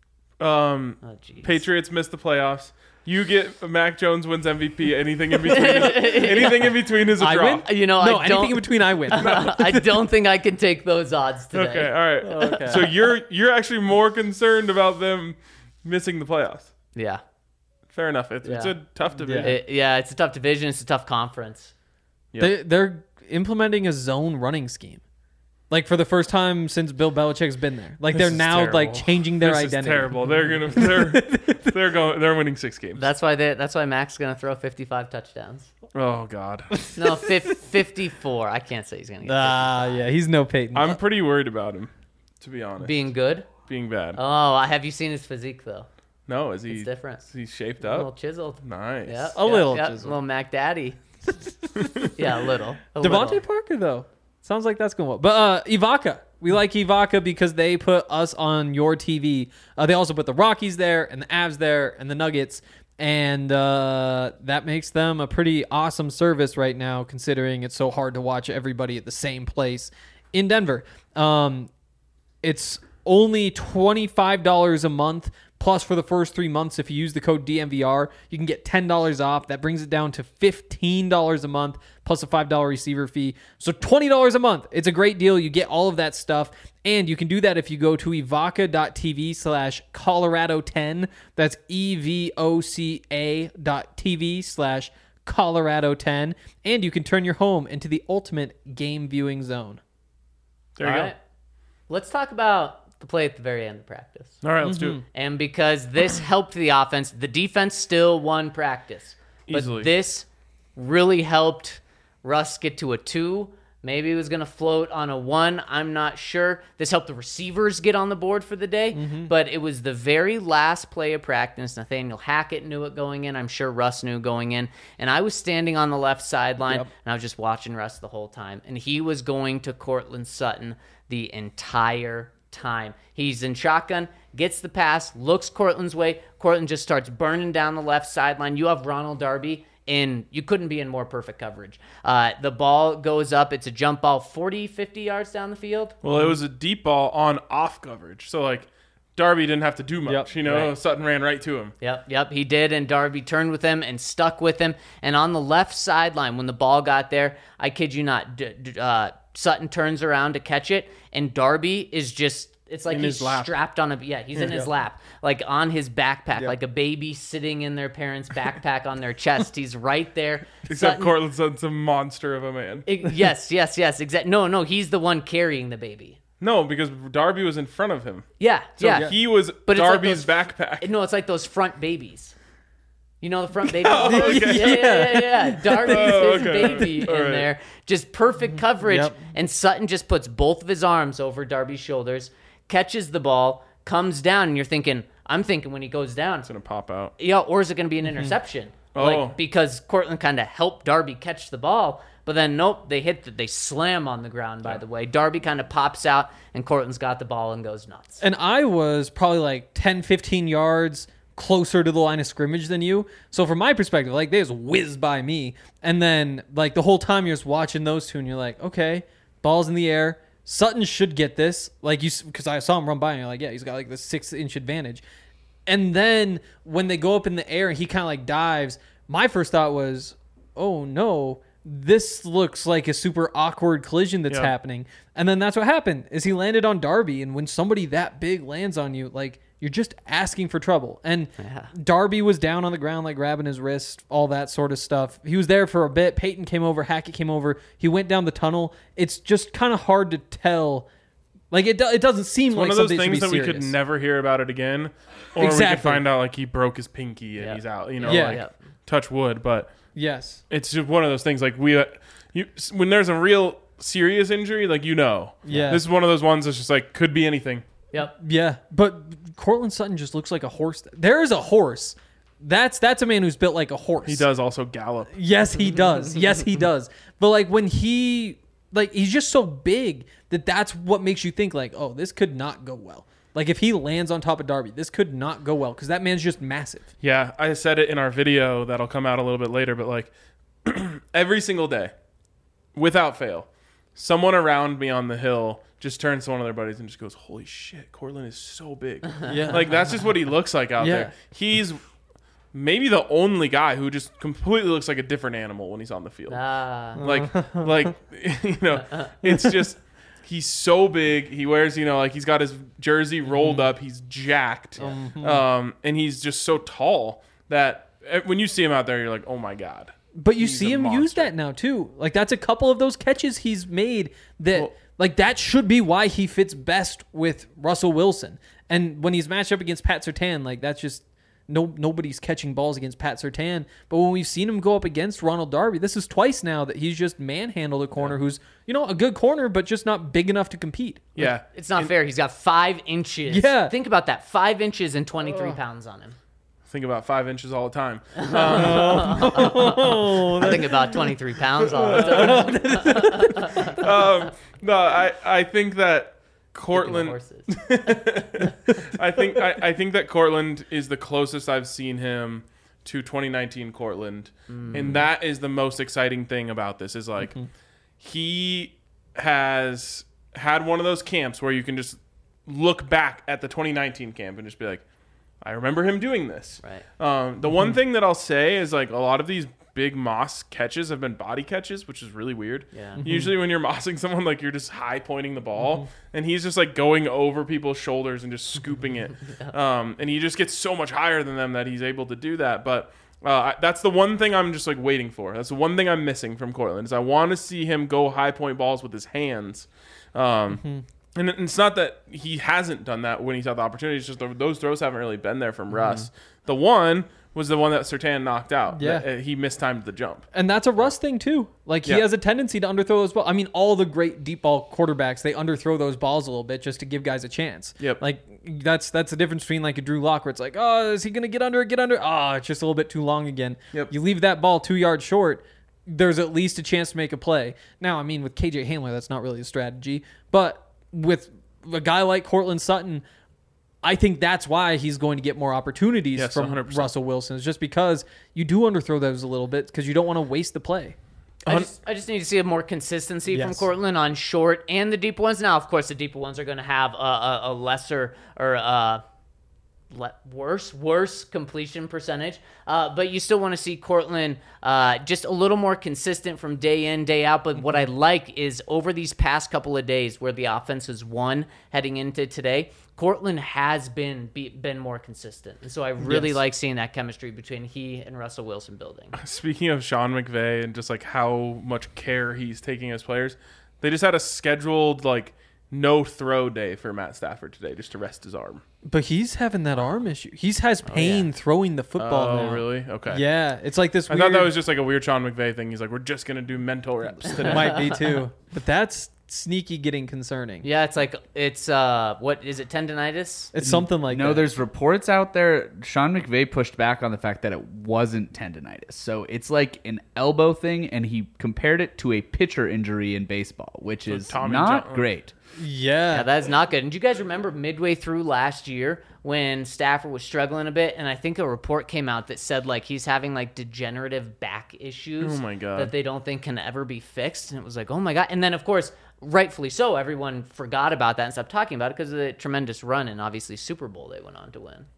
um, Oh, jeez. Patriots miss the playoffs. You get Mac Jones wins M V P. Anything in between, is, anything in between is a I draw. win? You know, No, I anything don't. in between, I win. I don't think I can take those odds today. Okay, all right. Okay. So you're you're actually more concerned about them missing the playoffs. Yeah. Fair enough. It's, it's Yeah. a tough division. It- yeah, it's a tough division. It's a tough conference. Yep. They, they're implementing a zone running scheme, like for the first time since Bill Belichick's been there. Like This they're is now terrible. like changing their this identity. is terrible. They're gonna they're they're going they're winning six games. That's why they. That's why Mac's gonna throw fifty-five touchdowns. Oh God. No, fif- fifty-four. I can't say he's gonna get Ah, yeah, he's no Peyton. I'm pretty worried about him, to be honest. being good. Being bad. Oh, have you seen his physique though? no, is he? It's different. Is he shaped A little up? chiseled. Nice. Yeah, A little yeah, chiseled. little Mac Daddy. yeah, a little. A Devontae little. Parker though, sounds like that's going well. But uh, Ibaka, we like Ibaka because they put us on your T V. Uh, they also put the Rockies there and the Avs there and the Nuggets, and uh, that makes them a pretty awesome service right now, considering it's so hard to watch everybody at the same place in Denver. Um, it's only twenty-five dollars a month. Plus, for the first three months, if you use the code D M V R, you can get ten dollars off. That brings it down to fifteen dollars a month, plus a five dollars receiver fee. So twenty dollars a month. It's a great deal. You get all of that stuff. And you can do that if you go to evoca.tv slash Colorado 10. That's E-V-O-C-A dot TV slash Colorado 10. And you can turn your home into the ultimate game viewing zone. There you All go. right. Let's talk about the play at the very end of practice. All right, let's do it. And because this helped the offense, the defense still won practice. But Easily. this really helped Russ get to a two. Maybe it was going to float on a one. I'm not sure. This helped the receivers get on the board for the day, mm-hmm. but it was the very last play of practice. Nathaniel Hackett knew it going in. I'm sure Russ knew going in. And I was standing on the left sideline, yep. and I was just watching Russ the whole time. And he was going to Courtland Sutton the entire time. He's in shotgun, gets the pass, looks Courtland's way. Courtland just starts burning down the left sideline. You have Ronald Darby. And you couldn't be in more perfect coverage. Uh, the ball goes up. It's a jump ball forty, fifty yards down the field. Well, it was a deep ball on off coverage. So, like, Darby didn't have to do much. Yep. You know, Right. Sutton ran right to him. Yep, yep, he did. And Darby turned with him and stuck with him. And on the left sideline, when the ball got there, I kid you not, d- d- uh, Sutton turns around to catch it. And Darby is just... It's like In he's his lap. strapped on a yeah he's in his lap, like on his backpack, like a baby sitting in their parents' backpack on their chest. He's right there. Except Sutton- Courtland Sutton's a monster of a man. It- yes, yes, yes, exactly. No, no, he's the one carrying the baby. No, because Darby was in front of him. Yeah, So yeah. he was But it's like Darby's those- backpack. No, it's like those front babies. You know the front baby? Oh, okay. yeah, yeah, yeah, yeah. Darby's Oh, his okay. baby All in right. there. Just perfect coverage. Yep. And Sutton just puts both of his arms over Darby's shoulders, catches the ball, comes down, and you're thinking, I'm thinking when he goes down, It's going to pop out. yeah, or is it going to be an interception? Oh. Like, because Courtland kind of helped Darby catch the ball, but then nope, they hit, the, they slam on the ground, by the way. Darby kind of pops out, and Courtland's got the ball and goes nuts. And I was probably like ten, fifteen yards closer to the line of scrimmage than you. So from my perspective, like they just whizzed by me. And then like the whole time you're just watching those two and you're like, okay, ball's in the air. Sutton should get this. Like you, because I saw him run by and you're like, yeah, he's got like the six inch advantage. And then when they go up in the air and he kind of like dives, my first thought was, oh no, this looks like a super awkward collision that's Yeah. happening. And then that's what happened is he landed on Darby. And when somebody that big lands on you, like you're just asking for trouble. And Yeah. Darby was down on the ground, like grabbing his wrist, all that sort of stuff. He was there for a bit. Peyton came over, Hackett came over. He went down the tunnel. It's just kind of hard to tell. Like it, do, it doesn't seem It's like one of those something things should that be we could serious. never hear about it again. Or we Exactly. could find out like he broke his pinky and Yeah. he's out. You know, Yeah. like Yeah. touch wood. But Yes. it's just one of those things like we, uh, you when there's a real serious injury, like you know. Yeah. This is one of those ones that's just like could be anything. Yep. Yeah, but Courtland Sutton just looks like a horse. There is a horse. That's that's a man who's built like a horse. He does also gallop. Yes, he does. Yes, he does. But like when he like he's just so big that that's what makes you think like, oh, this could not go well. Like if he lands on top of Darby, this could not go well because that man's just massive. Yeah, I said it in our video that'll come out a little bit later, but like every single day, without fail, someone around me on the hill just turns to one of their buddies and just goes, holy shit, Courtland is so big. Yeah. Like that's just what he looks like out Yeah. there. He's maybe the only guy who just completely looks like a different animal when he's on the field. Ah. Like, like you know, it's just he's so big. He wears, you know, like he's got his jersey rolled up. He's jacked, um, and he's just so tall that eh, when you see him out there, you're like, oh my god. But you He's see a him use monster. that now too. Like that's a couple of those catches he's made that Well- like that should be why he fits best with Russell Wilson. And when he's matched up against Pat Surtain, like that's just no nobody's catching balls against Pat Surtain. But when we've seen him go up against Ronald Darby, this is twice now that he's just manhandled a corner who's, you know, a good corner, but just not big enough to compete. Yeah, It's not fair. He's got five inches. Yeah. Think about that. Five inches and twenty-three pounds on him. think about five inches all the time. I think about twenty-three pounds all the time. um, no, I I think that Kicking the Courtland. horses. I think I, I think that Courtland is the closest I've seen him to twenty nineteen Courtland, and that is the most exciting thing about this. Is like he has had one of those camps where you can just look back at the twenty nineteen camp and just be like, I remember him doing this. Right. Um, the one thing that I'll say is like a lot of these big moss catches have been body catches, which is really weird. Yeah. Usually when you're mossing someone, like you're just high pointing the ball, and he's just like going over people's shoulders and just scooping it. Um, and he just gets so much higher than them that he's able to do that. But uh, I, that's the one thing I'm just like waiting for. That's the one thing I'm missing from Courtland is I want to see him go high point balls with his hands. Um, And it's not that he hasn't done that when he's had the opportunity. It's just those throws haven't really been there from Russ. The one was the one that Surtain knocked out. Yeah. That, uh, he mistimed the jump. And that's a Russ thing too. Like he Yeah. has a tendency to underthrow those balls. I mean, all the great deep ball quarterbacks, they underthrow those balls a little bit just to give guys a chance. Yep. Like that's that's the difference between like a Drew Lock where it's like, oh, is he gonna get under it? Get under? Oh, it's just a little bit too long again. Yep. You leave that ball two yards short, there's at least a chance to make a play. Now, I mean, with K J Hamler, that's not really a strategy. But with a guy like Cortland Sutton, I think that's why he's going to get more opportunities Yes, from one hundred percent. Russell Wilson. It's just because you do underthrow those a little bit because you don't want to waste the play. I just, I just need to see more consistency from Yes. Cortland on short and the deep ones. Now, of course, the deeper ones are going to have a, a, a lesser or uh, le- worse, worse completion percentage. Uh, but you still want to see Cortland uh, just a little more consistent from day in, day out. But what I like is over these past couple of days where the offense has won heading into today, Cortland has been be, been more consistent. And so I really Yes. like seeing that chemistry between he and Russell Wilson building. Speaking of Sean McVay and just like how much care he's taking as players, they just had a scheduled like no throw day for Matt Stafford today just to rest his arm. But he's having that arm issue. He has pain throwing the football Oh, now. really? Okay. Yeah, it's like this I weird... thought that was just like a weird Sean McVay thing. He's like, we're just going to do mental reps today. Might be too. But that's sneaky getting concerning. Yeah, it's like it's uh, what is it? Tendonitis. It's something like No, that. there's reports out there. Sean McVay pushed back on the fact that it wasn't tendonitis. So it's like an elbow thing, and he compared it to a pitcher injury in baseball, which is Tommy not John- great. Yeah. Yeah, that is not good. And do you guys remember midway through last year when Stafford was struggling a bit? And I think a report came out that said like he's having like degenerative back issues Oh, my God. that they don't think can ever be fixed. And it was like, oh my God. And then of course, rightfully so, everyone forgot about that and stopped talking about it because of the tremendous run and obviously Super Bowl they went on to win.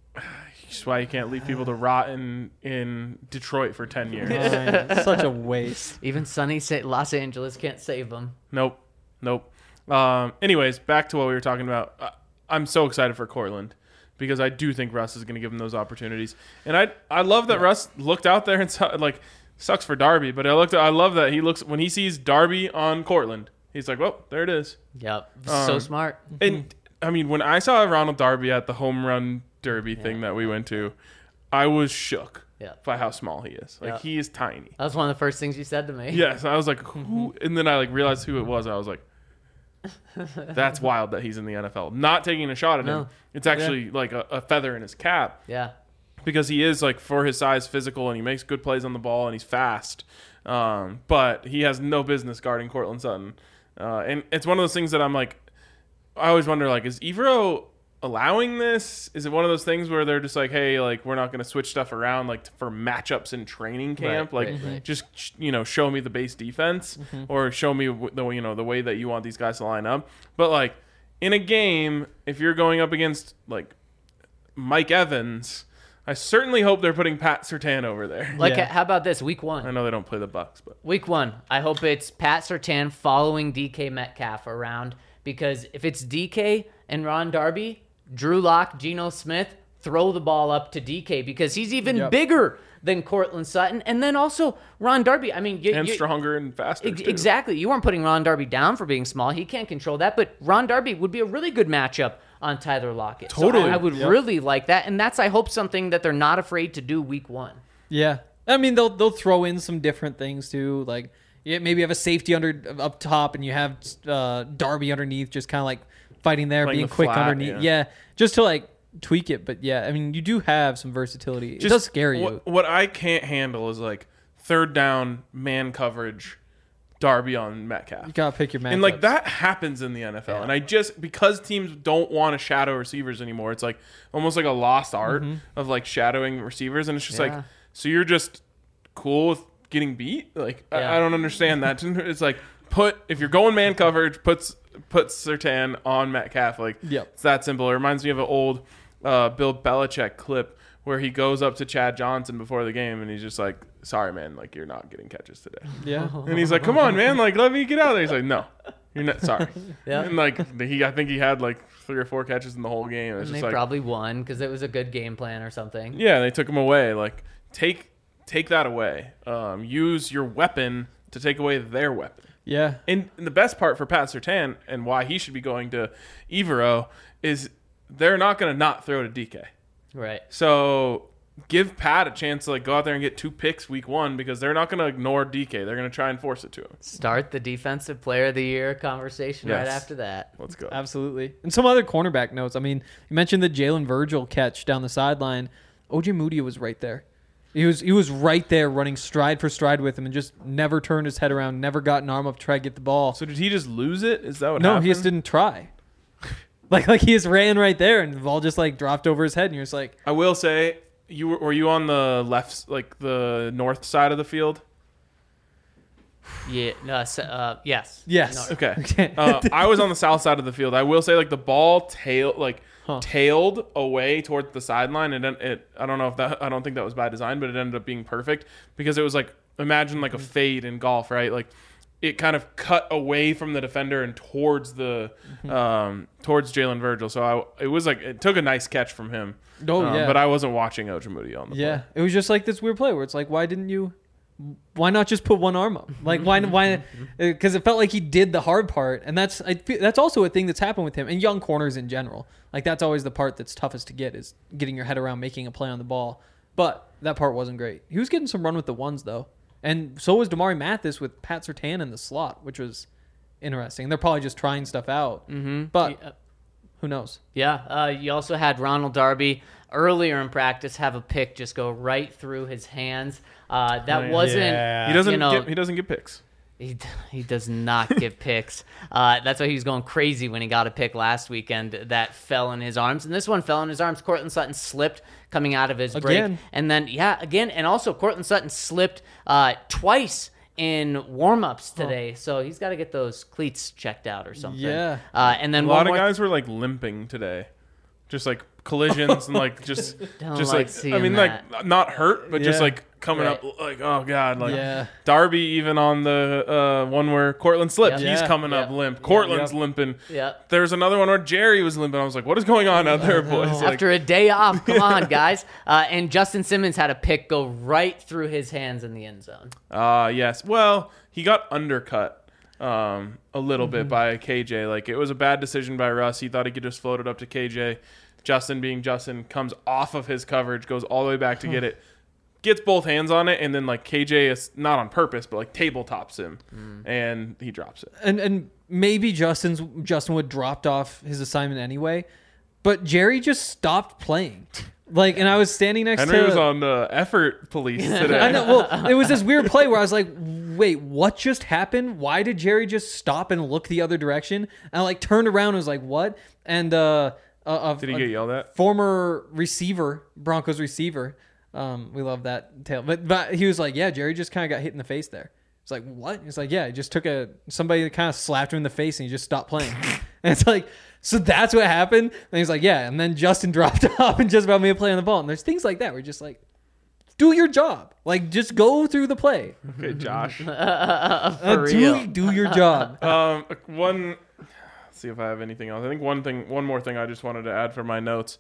That's why you can't leave people to rot in, in Detroit for ten years. Fine. Such a waste. Even sunny Sa- Los Angeles can't save them. Nope. Nope. Um, anyways, back to what we were talking about. I, I'm so excited for Cortland because I do think Russ is going to give him those opportunities. And I I love that Russ looked out there and saw, like, sucks for Darby, but I looked I love that he looks when he sees Darby on Cortland. He's like, well, there it is. Yep. so Um, smart. And I mean, when I saw Ronald Darby at the home run derby thing that we went to, I was shook Yeah. by how small he is. Like Yeah. he is tiny. That was one of the first things you said to me. Yes, I was like, who? And then I like realized who it was. I was like, that's wild that he's in the N F L. Not taking a shot at him. No. It's actually like a, a feather in his cap Yeah. because he is like for his size physical and he makes good plays on the ball and he's fast. Um, but he has no business guarding Cortland Sutton. Uh, and it's one of those things that I'm like, I always wonder like, is Evero allowing this? Is it one of those things where they're just like, hey, like we're not going to switch stuff around like for matchups in training camp, Right, like right, right. just you know show me the base defense or show me w- the you know the way that you want these guys to line up. But like in a game, if you're going up against like Mike Evans, I certainly hope they're putting Pat Surtain over there. Like, Yeah. how about this? Week one. I know they don't play the Bucks, but Week one, I hope it's Pat Surtain following D K Metcalf around because if it's D K and Ron Darby, Drew Lock, Geno Smith, throw the ball up to D K because he's even Yep. bigger than Cortland Sutton. And then also Ron Darby. I mean, you, and you- stronger and faster. Ex- too. Exactly. You weren't putting Ron Darby down for being small. He can't control that. But Ron Darby would be a really good matchup on Tyler Lockett. So Totally. I, I would Yep. really like that. And that's, I hope, something that they're not afraid to do week one. Yeah. I mean, they'll they'll throw in some different things too. Like, yeah, maybe you have a safety under up top and you have uh, Darby underneath, just kind of like fighting there, Playing being the quick flat, underneath. yeah. Yeah. Just to like tweak it. But yeah, I mean, you do have some versatility. It Just does scare you. What, what I can't handle is like third down man coverage, Darby on Metcalf. You gotta pick your matchups. And like that happens in the N F L. Yeah. And I just because teams don't want to shadow receivers anymore, it's like almost like a lost art of like shadowing receivers. And it's just Yeah. like, so you're just cool with getting beat? Like Yeah. I, I don't understand that. It's like put if you're going man coverage, puts put Surtain on Metcalf. Like Yep. it's that simple. It reminds me of an old uh, Bill Belichick clip where he goes up to Chad Johnson before the game and he's just like, sorry man, like you're not getting catches today. yeah. And he's like, "Come on, man! Like, let me get out of there." He's like, "No, you're not. Sorry." Yeah. And like, he, I think he had like three or four catches in the whole game. It's And just they like, probably won because it was a good game plan or something. yeah, they took him away. Like, take take that away. Um, use your weapon to take away their weapon. Yeah. And, and the best part for Pat Surtain and why he should be going to Evero is they're not going to not throw to D K. Right. So give Pat a chance to like go out there and get two picks week one because they're not going to ignore D K. They're going to try and force it to him. Start the defensive player of the year conversation right Yes. after that. Let's go. Absolutely. And some other cornerback notes. I mean, you mentioned the Jalen Virgil catch down the sideline. O J Moody was right there. He was he was right there running stride for stride with him and just never turned his head around, never got an arm up to try to get the ball. So did he just lose it? Is that what no, happened? he just didn't try. like like he just ran right there and the ball just like dropped over his head and you're just like, I will say, you were, were you on the left, like the north side of the field? Yeah. No. s- Uh, yes. yes. No. Okay. Uh, I was on the south side of the field. I will say, like the ball tail, like Huh. tailed away towards the sideline, and it, it. I don't know if that. I don't think that was by design, but it ended up being perfect because it was like imagine like a fade in golf, right? Like it kind of cut away from the defender and towards the um towards Jalen Virgil. So I it was like it took a nice catch from him. Oh, Um, yeah. But I wasn't watching Ojimudi on the Yeah. play. It was just like this weird play where it's like, why didn't you why not just put one arm up? Like why why because it felt like he did the hard part, and that's I feel, that's also a thing that's happened with him and young corners in general. Like that's always the part that's toughest to get is getting your head around making a play on the ball. But that part wasn't great. He was getting some run with the ones though, and so was Damari Mathis with Pat Surtain in the slot, which was interesting. They're probably just trying stuff out, Mm-hmm. but Yeah. who knows? Yeah, uh, you also had Ronald Darby earlier in practice have a pick just go right through his hands. Uh, that Oh, yeah. wasn't. Yeah. He doesn't. You know, get, he doesn't get picks. He, he does not give picks. Uh, that's why he was going crazy when he got a pick last weekend that fell in his arms. And this one fell in his arms. Cortland Sutton slipped coming out of his break. Again. And then, yeah, again. And also, Cortland Sutton slipped uh, twice in warm-ups today. So he's got to get those cleats checked out or something. Yeah. Uh, and then A one lot of more guys were like limping today, just like collisions and like just Don't just like like, I seeing mean that. like not hurt, but just Yeah. like coming Right. up like oh god, like Yeah. Darby even on the uh, one where Cortland slipped, Yep. he's Yeah. coming up Yep. limp. Cortland's Yep. limping. Yeah. There's another one where Jerry was limping. I was like, what is going on out there, boys? Like, After a day off, come on, guys. Uh, and Justin Simmons had a pick go right through his hands in the end zone. uh yes, well he got undercut um a little bit by K J. Like it was a bad decision by Russ. He thought he could just float it up to K J. Justin being Justin comes off of his coverage, goes all the way back to get it, gets both hands on it, and then like K J is not on purpose, but like tabletops him, and he drops it. and and maybe Justin's Justin would dropped off his assignment anyway, but Jerry just stopped playing. Like, and I was standing next Henry to. was on uh, effort police today. I know. Well, it was this weird play where I was like, "Wait, what just happened? Why did Jerry just stop and look the other direction?" And I like turned around and was like, "What?" And uh, uh Did he get yelled at? former receiver, Broncos receiver. Um, we love that tale. But but he was like, yeah, Jerry just kind of got hit in the face there. It's like, what? He's like, yeah, he just took a somebody kind of slapped him in the face and he just stopped playing. And it's like, so that's what happened. And he's like, yeah. And then Justin dropped off and just about made a play on the ball. And there's things like that where you're just like, do your job. Like, just go through the play. Okay, Josh. Uh, For do, real. do your job. Um, one. Let's see if I have anything else. I think one thing, one more thing, I just wanted to add for my notes.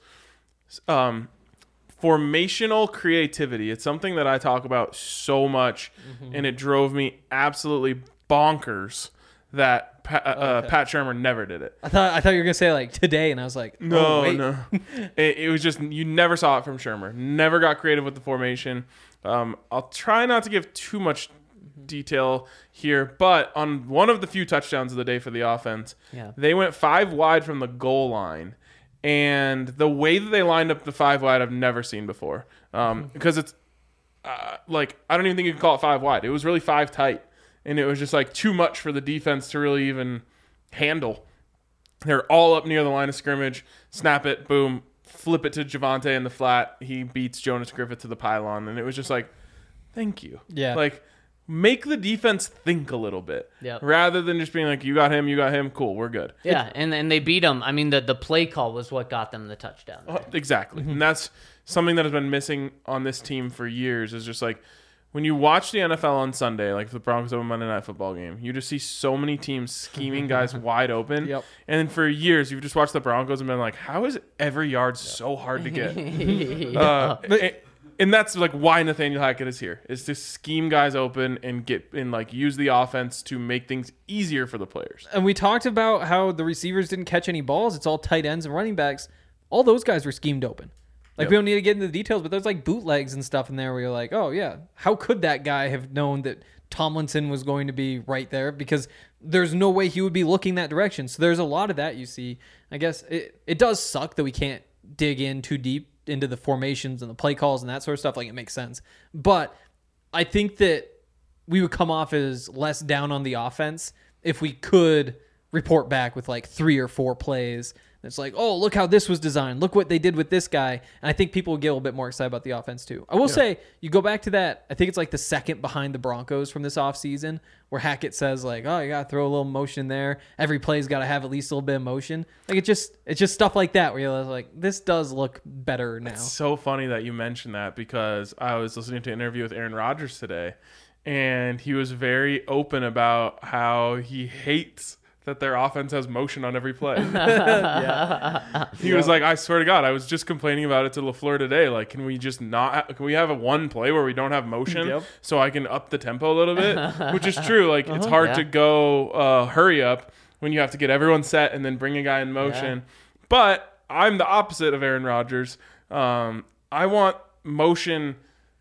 Um, formational creativity. It's something that I talk about so much, and it drove me absolutely bonkers that Pa- uh, okay. Pat Shermer never did it. I thought I thought you were gonna say like today, and I was like, No, oh, wait. no. it, it was just you never saw it from Shermer. Never got creative with the formation. Um, I'll try not to give too much detail here, but on one of the few touchdowns of the day for the offense, Yeah. they went five wide from the goal line, and the way that they lined up the five wide, I've never seen before. Um, because it's uh, like I don't even think you can call it five wide. It was really five tight, and it was just like too much for the defense to really even handle. They're all up near the line of scrimmage. Snap it, boom, flip it to Javonte in the flat. He beats Jonas Griffith to the pylon, and it was just like, thank you. Yeah. Like, make the defense think a little bit, Yep. rather than just being like, you got him, you got him, cool, we're good. Yeah, and and they beat them. I mean, the, the play call was what got them the touchdown. Uh, Exactly. And that's something that has been missing on this team for years is just like when you watch the N F L on Sunday, like the Broncos over Monday Night Football game, you just see so many teams scheming guys wide open. Yep. And then for years, you've just watched the Broncos and been like, how is every yard so hard to get? uh, and, and that's like why Nathaniel Hackett is here, is to scheme guys open and get and like use the offense to make things easier for the players. And we talked about how the receivers didn't catch any balls. It's all tight ends and running backs. All those guys were schemed open. Like Yep. we don't need to get into the details, but there's like bootlegs and stuff in there where you're like, oh yeah, how could that guy have known that Tomlinson was going to be right there? Because there's no way he would be looking that direction. So there's a lot of that you see. I guess it, it does suck that we can't dig in too deep into the formations and the play calls and that sort of stuff. Like it makes sense. But I think that we would come off as less down on the offense if we could report back with like three or four plays. It's like, oh, look how this was designed. Look what they did with this guy. And I think people will get a little bit more excited about the offense too. I will yeah. say, you go back to that, I think it's like the second behind the Broncos from this offseason, where Hackett says like, oh, you got to throw a little motion there. Every play's got to have at least a little bit of motion. Like it just, it's just stuff like that where you're like, this does look better now. It's so funny that you mentioned that because I was listening to an interview with Aaron Rodgers today, and he was very open about how he hates that their offense has motion on every play. yeah. He yeah. was like, I swear to God, I was just complaining about it to LaFleur today. Like, can we just not, can we have a one play where we don't have motion yep. so I can up the tempo a little bit? Which is true. Like, uh-huh. it's hard yeah. to go uh, hurry up when you have to get everyone set and then bring a guy in motion. Yeah. But I'm the opposite of Aaron Rodgers. Um, I want motion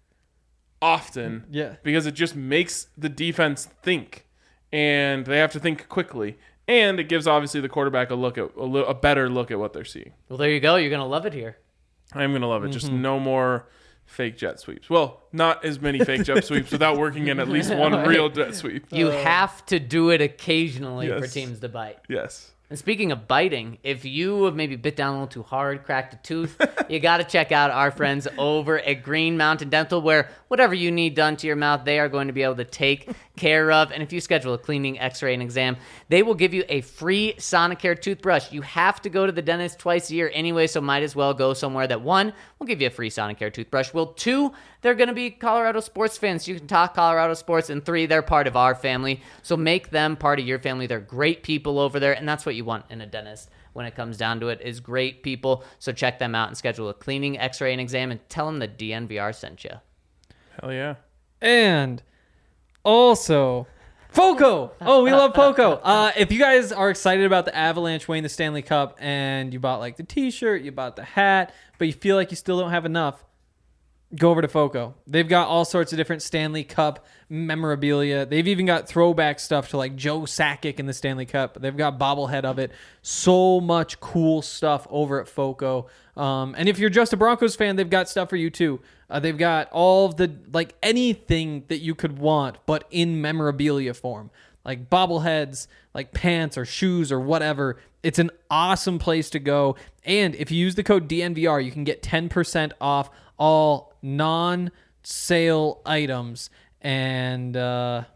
often yeah. because it just makes the defense think, and they have to think quickly. And it gives obviously the quarterback a look at a, little, a better look at what they're seeing. Well, there you go. You're gonna love it here. I'm gonna love it. Mm-hmm. Just no more fake jet sweeps. Well, not as many fake jet sweeps without working in at least one right. real jet sweep. You uh, have to do it occasionally yes. for teams to bite. Yes. And speaking of biting, if you have maybe bit down a little too hard, cracked a tooth, you got to check out our friends over at Green Mountain Dental, where whatever you need done to your mouth, they are going to be able to take care of. And if you schedule a cleaning, x-ray, and exam, they will give you a free Sonicare toothbrush. You have to go to the dentist twice a year anyway, so might as well go somewhere that, one, will give you a free Sonicare toothbrush. Well, two, they're going to be Colorado sports fans. You can talk Colorado sports. And three, they're part of our family. So make them part of your family. They're great people over there, and that's what you want in a dentist when it comes down to it, is great people. So check them out and schedule a cleaning, x-ray, and exam, and tell them the D N V R sent you. Hell yeah. And also, Foco. Oh, we love Foco. Uh, if you guys are excited about the Avalanche winning the Stanley Cup and you bought like the t-shirt, you bought the hat, but you feel like you still don't have enough, go over to Foco. They've got all sorts of different Stanley Cup memorabilia. They've even got throwback stuff to like Joe Sakic in the Stanley Cup. They've got bobblehead of it. So much cool stuff over at Foco. Um, and if you're just a Broncos fan, they've got stuff for you too. Uh, they've got all of the, like anything that you could want, but in memorabilia form. Like bobbleheads, like pants or shoes or whatever. It's an awesome place to go. And if you use the code D N V R, you can get ten percent off all non-sale items. And uh,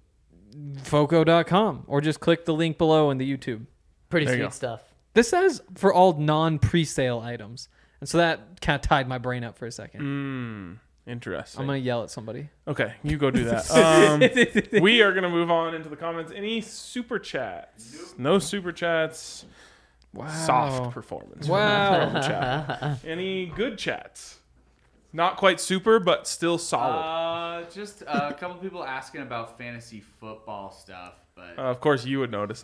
Foco dot com, or just click the link below in the YouTube. Pretty There you sweet go. stuff. This says for all non-pre-sale items. And so that kind of tied my brain up for a second. Mm, interesting. I'm going to yell at somebody. Okay, you go do that. Um, we are going to move on into the comments. Any super chats? Nope. No super chats. Wow. Soft performance. Wow. From chat. Any good chats? Not quite super, but still solid. Uh, just uh, a couple people asking about fantasy football stuff, but Uh, of course, you would notice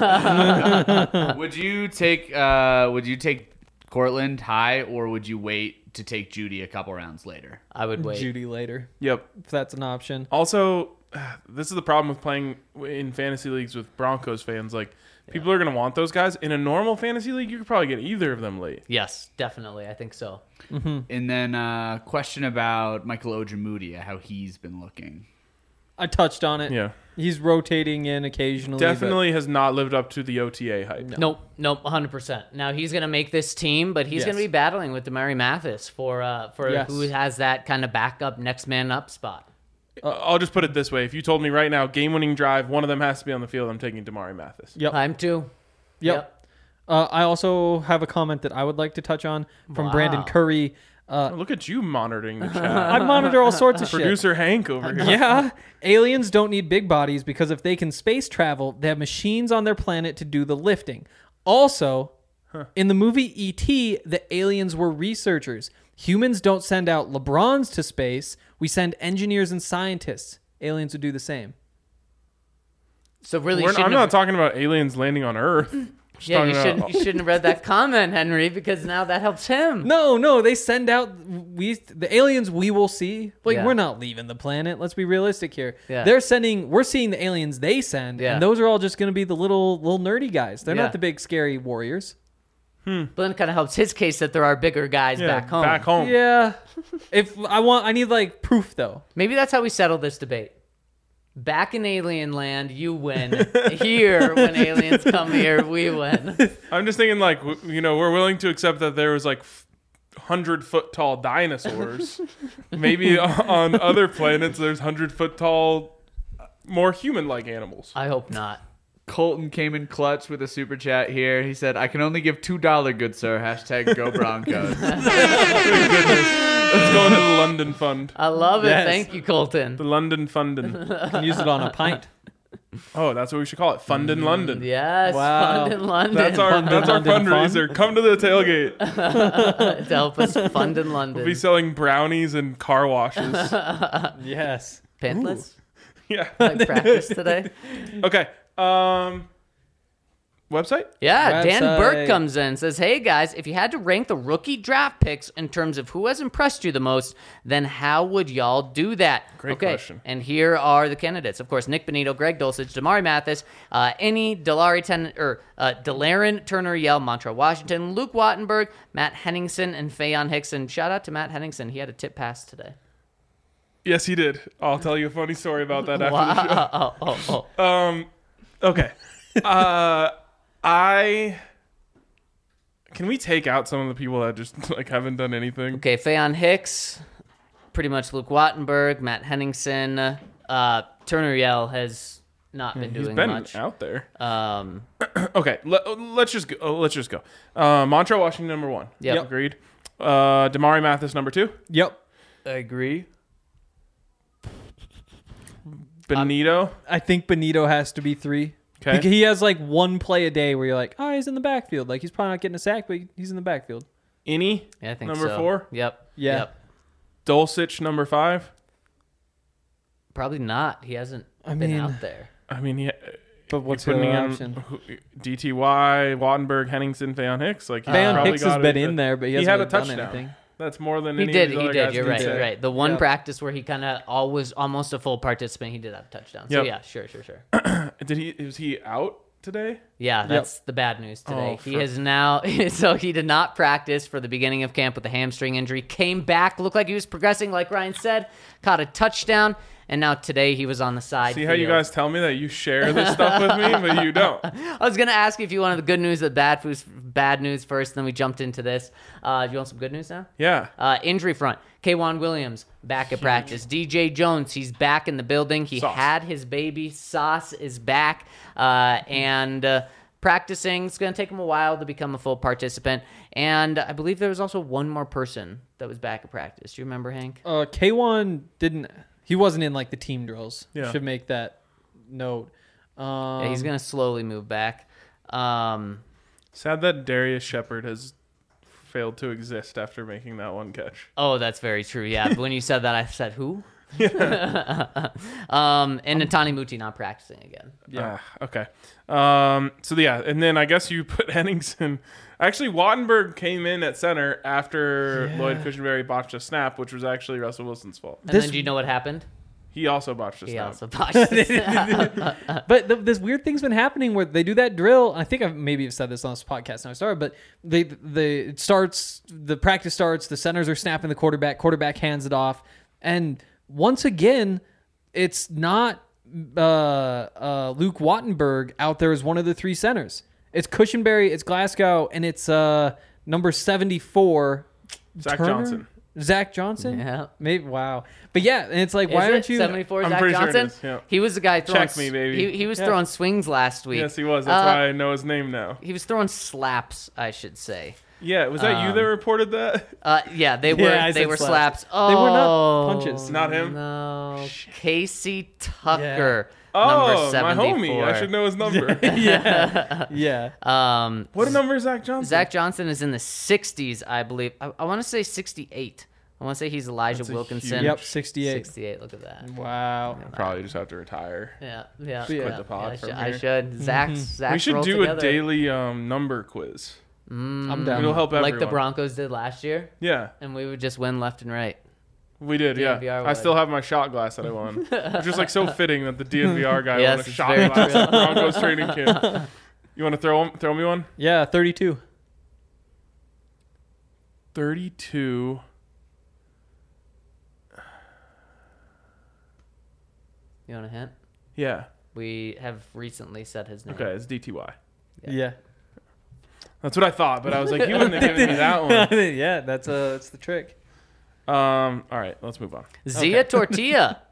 that. would you take uh, would you take Cortland high, or would you wait to take Judy a couple rounds later? I would wait. Judy later, Yep. if that's an option. Also, this is the problem with playing in fantasy leagues with Broncos fans. Like, people are going to want those guys. In a normal fantasy league, you could probably get either of them late. Yes, definitely. I think so. Mm-hmm. And then uh, question about Michael Ojemudia, how he's been looking. I touched on it. Yeah. He's rotating in occasionally. Definitely has not lived up to the O T A hype. No. Nope, nope, one hundred percent. Now he's going to make this team, but he's Yes. going to be battling with Demary Mathis for uh, for Yes. who has that kind of backup next man up spot. Uh, I'll just put it this way. If you told me right now, game-winning drive, one of them has to be on the field, I'm taking Damari Mathis. Yep. I'm too. Yep. Uh, I also have a comment that I would like to touch on from Wow. Brandon Curry. Uh, Oh, look at you monitoring the chat. I monitor all sorts of shit. Producer Hank over here. Yeah. Aliens don't need big bodies because if they can space travel, they have machines on their planet to do the lifting. Also, in the movie E T, the aliens were researchers. Humans don't send out LeBrons to space. We send engineers and scientists. Aliens would do the same. So really, We're, shouldn't I'm have- not talking about aliens landing on Earth. Yeah, talking you about- shouldn't. You shouldn't have read that comment, Henry, because now that helps him. No, no, they send out we the aliens we will see. Like Yeah. we're not leaving the planet. Let's be realistic here. Yeah. They're sending. We're seeing the aliens they send, Yeah. and those are all just going to be the little little nerdy guys. They're Yeah. not the big scary warriors. But then it kind of helps his case that there are bigger guys Yeah, back home. Back home. Yeah. If I want, I need like proof though. Maybe that's how we settle this debate. Back in alien land, you win. Here, when aliens come here, we win. I'm just thinking, like, w- you know, we're willing to accept that there was like hundred foot tall dinosaurs. Maybe on other planets, there's hundred foot tall, more human like animals. I hope not. Colton came in clutch with a super chat here. He said, "I can only give two dollar, good sir." Hashtag Go Broncos. It's going to the London Fund. I love it. Yes. Thank you, Colton. The London Fundin. You can use it on a pint. Oh, that's what we should call it. Fund in London. Yes, Wow. fund in London. That's our Fund in that's our London fun. fundraiser. Come to the tailgate. to help us fund in London. We'll be selling brownies and car washes. Yes. Pantless? Yeah. Like practice today? Okay. Um. Website? Yeah, Dan Website. Burke comes in and says, "Hey guys, if you had to rank the rookie draft picks in terms of who has impressed you the most, then how would y'all do that?" Great okay, question. And here are the candidates. Of course, Nick Benito, Greg Dulcich, Damari Mathis, uh, Any, Delari Ten, or uh, Delarin Turner Yell, Montrell Washington, Luke Wattenberg, Matt Henningsen, and Fayon Hickson. Shout out to Matt Henningsen. He had a tip pass today. Yes, he did. I'll tell you a funny story about that after the show. Wow. Oh, oh, oh. Um, okay. Uh, I can we take out some of the people that just like haven't done anything? Okay, Fayon Hicks, pretty much Luke Wattenberg, Matt Henningsen, uh, Turner Yell has not been He's doing been much. out there. Um, Okay, let, let's just go. oh, let's just go. Uh, Montrell Washington number one. Yep. agreed. Uh, Damari Mathis number two. Yep. I agree. Benito. I think Benito has to be three. Okay. Because he has like one play a day where you're like, oh, he's in the backfield. Like he's probably not getting a sack, but he's in the backfield. Innie. yeah, I think Number so. four? Yep. Yeah. Yep. Dulcich number five. Probably not. He hasn't I been mean- out there. I mean, he, But what's you're the putting other in option? who- D T Y, Wattenberg, Henningsen, Fayon Hicks. Like he's Van probably Hicks has got been it. in there, but he, He hasn't had a really done touchdown. anything. That's more than He any did. of these He other did. guys You're can right. say. You're right. The one Yep. practice where he kind of always almost a full participant, he did have a touchdown. So Yep. yeah, sure, sure, sure. Did he? Was he out today? Yeah, that's the bad news today. Oh, he for- has now, so he did not practice for the beginning of camp with a hamstring injury. Came back, looked like he was progressing, like Ryan said, caught a touchdown, and now today he was on the side. See how you field. guys tell me that you share this stuff with me, but you don't. I was gonna ask you if you wanted the good news, the bad news, bad news first, then we jumped into this. Uh, do you want some good news now? Yeah. Uh, injury front. K'Wan Williams back at practice. D J Jones, he's back in the building. He Sauce. had his baby. Sauce is back uh, and uh, practicing. It's going to take him a while to become a full participant. And I believe there was also one more person that was back at practice. Do you remember, Hank? Uh, K one didn't. He wasn't in like the team drills. Yeah. Should make that note. Um, Yeah, he's going to slowly move back. Um, Sad that Darius Shepard has failed to exist after making that one catch. oh, that's very true. Yeah, but when you said that, I said, who? um, and Natani Muti not practicing again. Yeah. Ah, okay. Um, so yeah, and then I guess you put Henningsen. Actually, Wattenberg came in at center after Yeah. Lloyd Cushenberry botched a snap, which was actually Russell Wilson's fault. And This- then do you know what happened? He also botched a He snap. also botched the snap. But th this weird thing's been happening where they do that drill. I think I've maybe have said this on this podcast now I started, but they the it starts the practice starts. The centers are snapping the quarterback. Quarterback hands it off, and once again, it's not uh, uh, Luke Wattenberg out there as one of the three centers. It's Cushenberry, it's Glasgow, and it's uh, number seventy-four, Zach Turner? Johnson. Zach Johnson. Yeah. Maybe. Wow. But yeah, and it's like, Is why it aren't you? seventy-four I'm Zach pretty sure it Johnson? is, yeah. He was the guy throwing. Check me, baby. He, he was Yeah. throwing swings last week. Yes, he was. That's Uh, why I know his name now. He was throwing slaps, I should say. Yeah, was that you that um, reported that? Uh, yeah, they were. Yeah, I they said were slaps. slaps. Oh, They were not punches. Not him? No, Casey Tucker, Oh, number my seventy-four. homie. I should know his number. yeah. Yeah. Um, What number is Zach Johnson? Zach Johnson is in the sixties, I believe. I, I want to say sixty-eight. I want to say he's Elijah That's a Wilkinson. huge- Yep, sixty-eight. sixty-eight. Look at that. Wow. I probably just have to retire. Yeah, yeah. quit yeah, the pod yeah, I, from should, I here. should. Zach's, Zach's We should roll do together. a daily um, number quiz. Mm, I'm down. It'll help everyone. like the Broncos did last year, Yeah, and we would just win left and right. we did. D N V Yeah, R I would. still have my shot glass that I won. It's just like so fitting that the D N V R guy Yes, won a it's shot very glass true. at Broncos training camp. You want to throw throw me one? Yeah, thirty-two. thirty-two. You want a hint? Yeah. We have recently said his name. Okay, it's D T Y. Yeah. Yeah. That's what I thought, but I was like, you wouldn't have given me that one. yeah, that's uh that's the trick. Um. All right, let's move on. Zia Tortilla.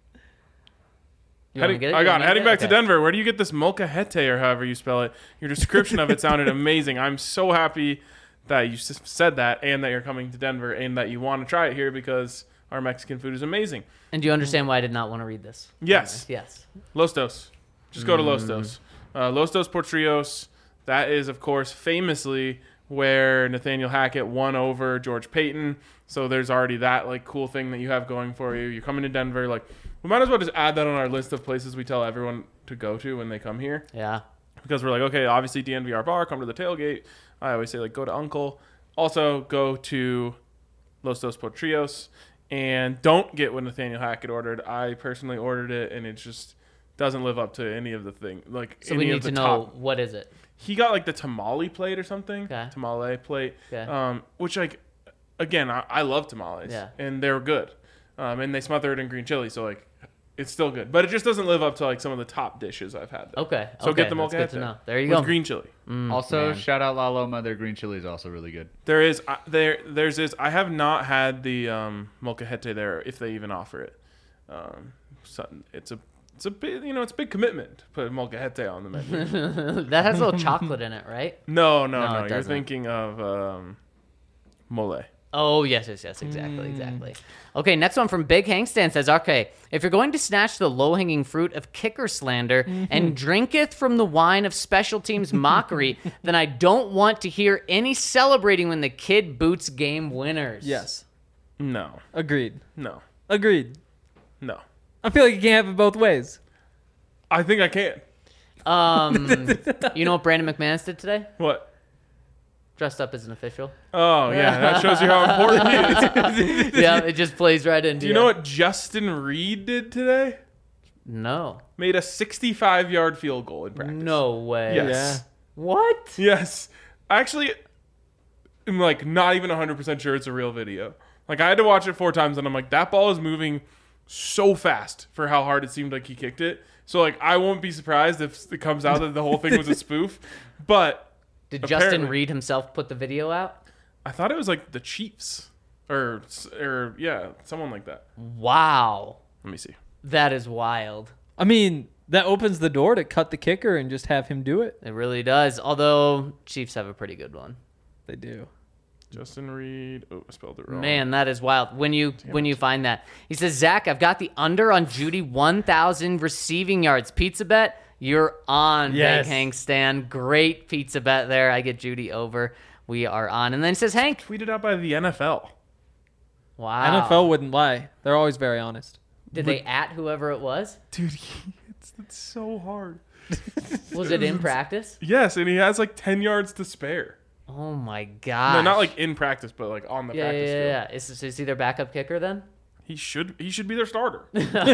You wanna Heading, get it? I You got wanna it. Heading get back to Okay. Denver. Where do you get this molcajete or however you spell it? Your description of it sounded amazing. I'm so happy that you s- said that and that you're coming to Denver and that you want to try it here because our Mexican food is amazing. And do you understand why I did not want to read this? Yes. Yes. Los Dos. Just go to Mm. Los Dos. Uh, Los Dos Portrios. That is, of course, famously where Nathaniel Hackett won over George Payton. So there's already that like cool thing that you have going for you. You're coming to Denver. Like, we might as well just add that on our list of places we tell everyone to go to when they come here. Yeah. Because we're like, okay, obviously D N V R bar, come to the tailgate. I always say, like, go to Uncle. Also, go to Los Dos Portrios. And don't get what Nathaniel Hackett ordered. I personally ordered it, and it just doesn't live up to any of the thing. Like, So any we of need the to know top. what is it. He got, like, the tamale plate or something. Okay. Tamale plate. Okay. Um, which, like, again, I, I love tamales. Yeah. And they're good. Um, and they smother it in green chili, so, like, it's still good. But it just doesn't live up to, like, some of the top dishes I've had. There. Okay. So okay. get the That's good to molcajete know. There you with go. green chili. Mm, Also, man. shout out La Loma. Their green chili is also really good. There is uh, there there's this. I have not had the um, molcajete there, if they even offer it. Um, so it's a it's a big you know it's a big commitment to put molcajete on the menu. that has a little chocolate in it, right? no, no, No, no. it You're doesn't. thinking of um, mole. Oh, yes, yes, yes, exactly, exactly. Okay, next one from Big Hankstand says, okay, if you're going to snatch the low-hanging fruit of kicker slander and drinketh from the wine of special teams mockery, then I don't want to hear any celebrating when the kid boots game winners. Yes. No, Agreed. no, Agreed. no. I feel like you can't have it both ways. I think I can. Um, you know what Brandon McManus did today? What? Dressed up as an official. Oh yeah, that shows you how important he is. Yeah, it just plays right into Do you know what Justin Reed did today? No. Made a sixty-five yard field goal in practice. No way. Yes. What? Yes. Actually, I'm like not even one hundred percent sure it's a real video. Like I had to watch it four times and I'm like, that ball is moving so fast for how hard it seemed like he kicked it. So like I won't be surprised if it comes out that the whole thing was a spoof. But Did Justin apparently- Reed himself put the video out? I thought it was like the Chiefs. Or or yeah, someone like that. Wow. Let me see. That is wild. I mean, that opens the door to cut the kicker and just have him do it. It really does. Although Chiefs have a pretty good one. They do. Justin Reed. Oh, I spelled it wrong. Man, that is wild. When you when you find that, he says, Zach, I've got the under on Judy one thousand receiving yards pizza bet. You're on, Yes. Big Hank Stan. Great pizza bet there. I get Judy over. We are on. And then he says, Hank, Tweeted out by the N F L. wow. N F L wouldn't lie. They're always very honest. Did they at whoever it was? Dude, it's, it's so hard. Was it in practice? Yes, and he has like ten yards to spare. Oh my god. No, not like in practice, but like on the yeah, yeah, practice yeah, field. yeah. Is, is he their backup kicker then? He should he should be their starter.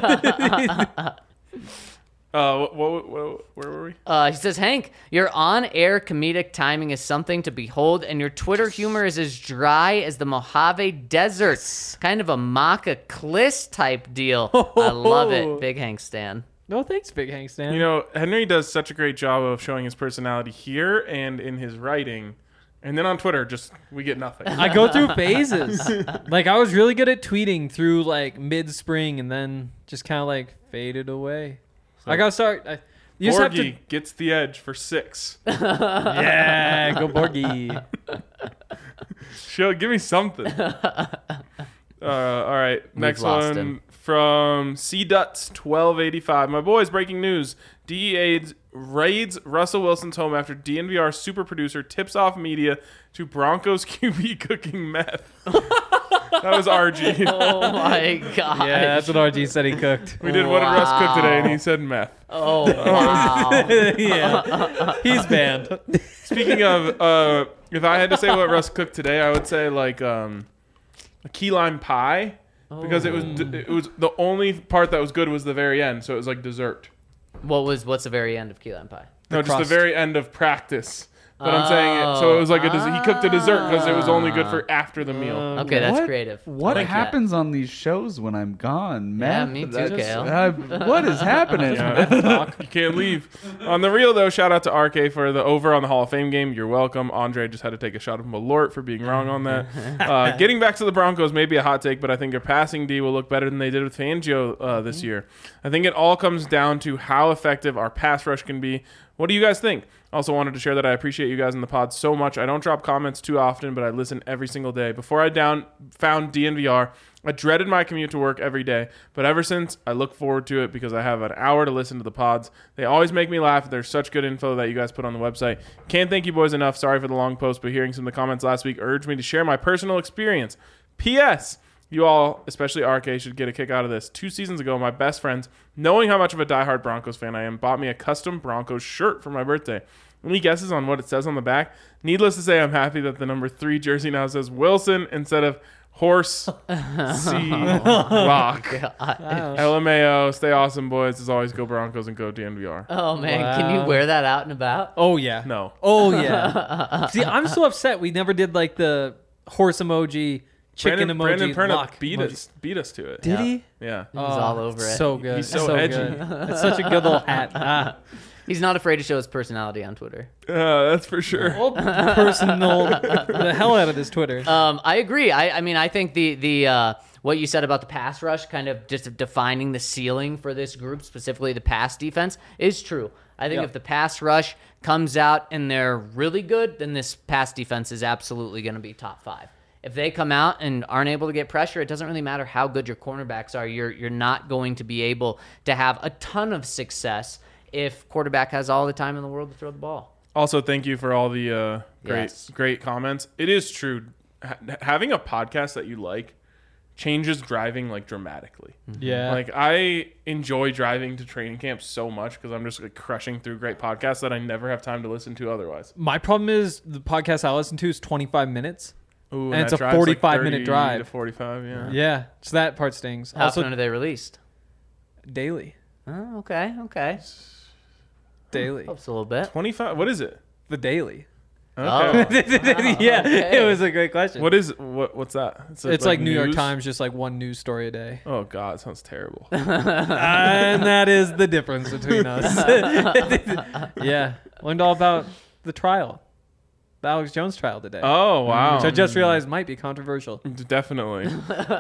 uh, what, what, what, where were we? Uh, he says, Hank, your on-air comedic timing is something to behold, and your Twitter humor is as dry as the Mojave Desert. Kind of a Maca Kliss type deal. I love it. Big Hank Stan. No thanks, Big Hank Stan. You know, Henry does such a great job of showing his personality here and in his writing, and then on Twitter, just we get nothing. I go through phases. Like, I was really good at tweeting through, like, mid-spring and then just kind of, like, faded away. I gotta start. I, you just have to. Borgie gets the edge for six. Yeah, go Borgie. Show, give me something. Uh, all right, next lost one him. from C Duts twelve eighty-five. My boys, breaking news: D E A raids Russell Wilson's home after D N V R super producer tips off media to Broncos Q B cooking meth. That was R G. Oh my god. Yeah, that's what R G said he cooked. We did what did Russ cook today, and Wow. he said meth. Oh wow. Yeah, he's banned. Speaking of, uh, if I had to say what Russ cooked today, I would say like um, a key lime pie because it was it was the only part that was good was the very end, so it was like dessert. What was what's the very end of key lime pie? No, just the crust. very end of practice. But I'm saying it, so it was like a des- he cooked a dessert because it was only good for after the meal. Okay, that's What- creative. What I like that. happens on these shows when I'm gone, Yeah, man? me too, That's- Kale. uh, what is happening? You can't leave. On the real though, shout out to R K for the over on the Hall of Fame game. You're welcome. Andre just had to take a shot of Malort for being wrong on that. Uh, getting back to the Broncos, maybe a hot take, but I think their passing D will look better than they did with Fangio uh, this year. I think it all comes down to how effective our pass rush can be. What do you guys think? Also wanted to share that I appreciate you guys in the pod so much. I don't drop comments too often, but I listen every single day. Before I down found D N V R, I dreaded my commute to work every day, but ever since, I look forward to it because I have an hour to listen to the pods. They always make me laugh. There's such good info that you guys put on the website. Can't thank you boys enough. Sorry for the long post, but hearing some of the comments last week urged me to share my personal experience. P S. You all, especially R K, should get a kick out of this. Two seasons ago, my best friends, knowing how much of a diehard Broncos fan I am, bought me a custom Broncos shirt for my birthday. Any guesses on what it says on the back? Needless to say, I'm happy that the number three jersey now says Wilson instead of Horse C Rock. L M A O, stay awesome, boys. As always, go Broncos and go D N V R. Oh man, can you Wow. wear that out and about? Oh yeah. No. Oh yeah. See, I'm so upset we never did like the horse emoji, chicken Brandon, emoji, Brandon Perna lock beat emoji. us, beat us to it. Did he? Yeah. He was all over it. So good. He's so edgy. good. It's such a good little hat. Ah. He's not afraid to show his personality on Twitter. Uh, that's for sure. Well, personal the hell out of this Twitter. Um, I agree. I, I mean, I think the the uh, what you said about the pass rush, kind of just defining the ceiling for this group, specifically the pass defense, is true. I think Yeah. if the pass rush comes out and they're really good, then this pass defense is absolutely going to be top five. If they come out and aren't able to get pressure, it doesn't really matter how good your cornerbacks are. You're you're not going to be able to have a ton of success if quarterback has all the time in the world to throw the ball. Also, thank you for all the uh, great, Yes. great comments. It is true. Ha- having a podcast that you like changes driving like dramatically. yeah. Like I enjoy driving to training camp so much because I'm just like crushing through great podcasts that I never have time to listen to otherwise. My problem is the podcast I listen to is twenty-five minutes. Ooh, And it's that a drive's, like, forty-five minute thirty drive. to forty-five. Yeah. Yeah. So that part stings. How Also often are they released? daily. Oh, okay, okay. Daily. Helps a little bit. twenty-five. What is it? The daily. Okay. Oh. yeah. okay. It was a great question. What is what? What's that? it's like, New York news? Times, just like one news story a day. Oh God, it sounds terrible. And that is the difference between us. Yeah. Learned all about the trial. The Alex Jones trial today. Oh wow. Which I just realized might be controversial. Definitely.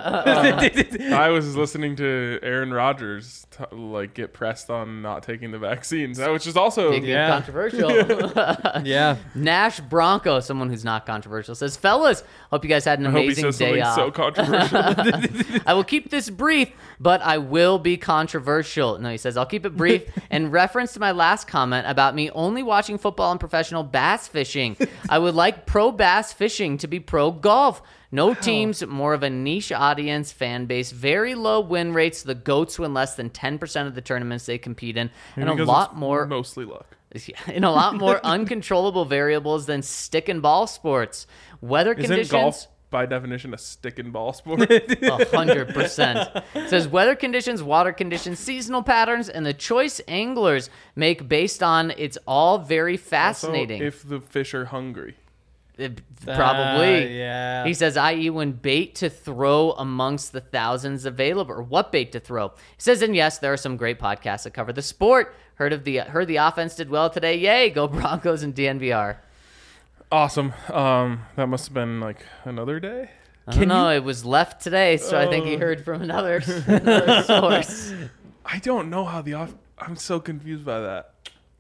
I was listening to Aaron Rodgers t- like get pressed on not taking the vaccines, which is also Big, big Yeah. controversial. Yeah. Nash Bronco, someone who's not controversial, says, "Fellas, hope you guys had an I hope he amazing says day something off. so controversial. I will keep this brief, but I will be controversial." No, he says, "I'll keep it brief." In reference to my last comment about me only watching football and professional bass fishing, I would like pro bass fishing to be pro golf. No teams, more of a niche audience, fan base, very low win rates. The GOATs win less than ten percent of the tournaments they compete in, and a Because lot it's more mostly luck. in a lot more uncontrollable variables than stick and ball sports. Weather Isn't conditions. golf by definition a stick and ball sport? A hundred percent. It says weather conditions, water conditions, seasonal patterns, and the choice anglers make based on it's all very So fascinating. if the fish are hungry. It- probably. Uh, yeah. He says, that is when bait to throw amongst the thousands available, or what bait to throw. He says, and yes, there are some great podcasts that cover the sport. Heard of the heard the offense did well today. Yay, go Broncos and D N V R. Awesome. Um, that must have been like another day. I don't know. It was left today, so I think he heard from another, another source. I don't know how the off. I'm so confused by that.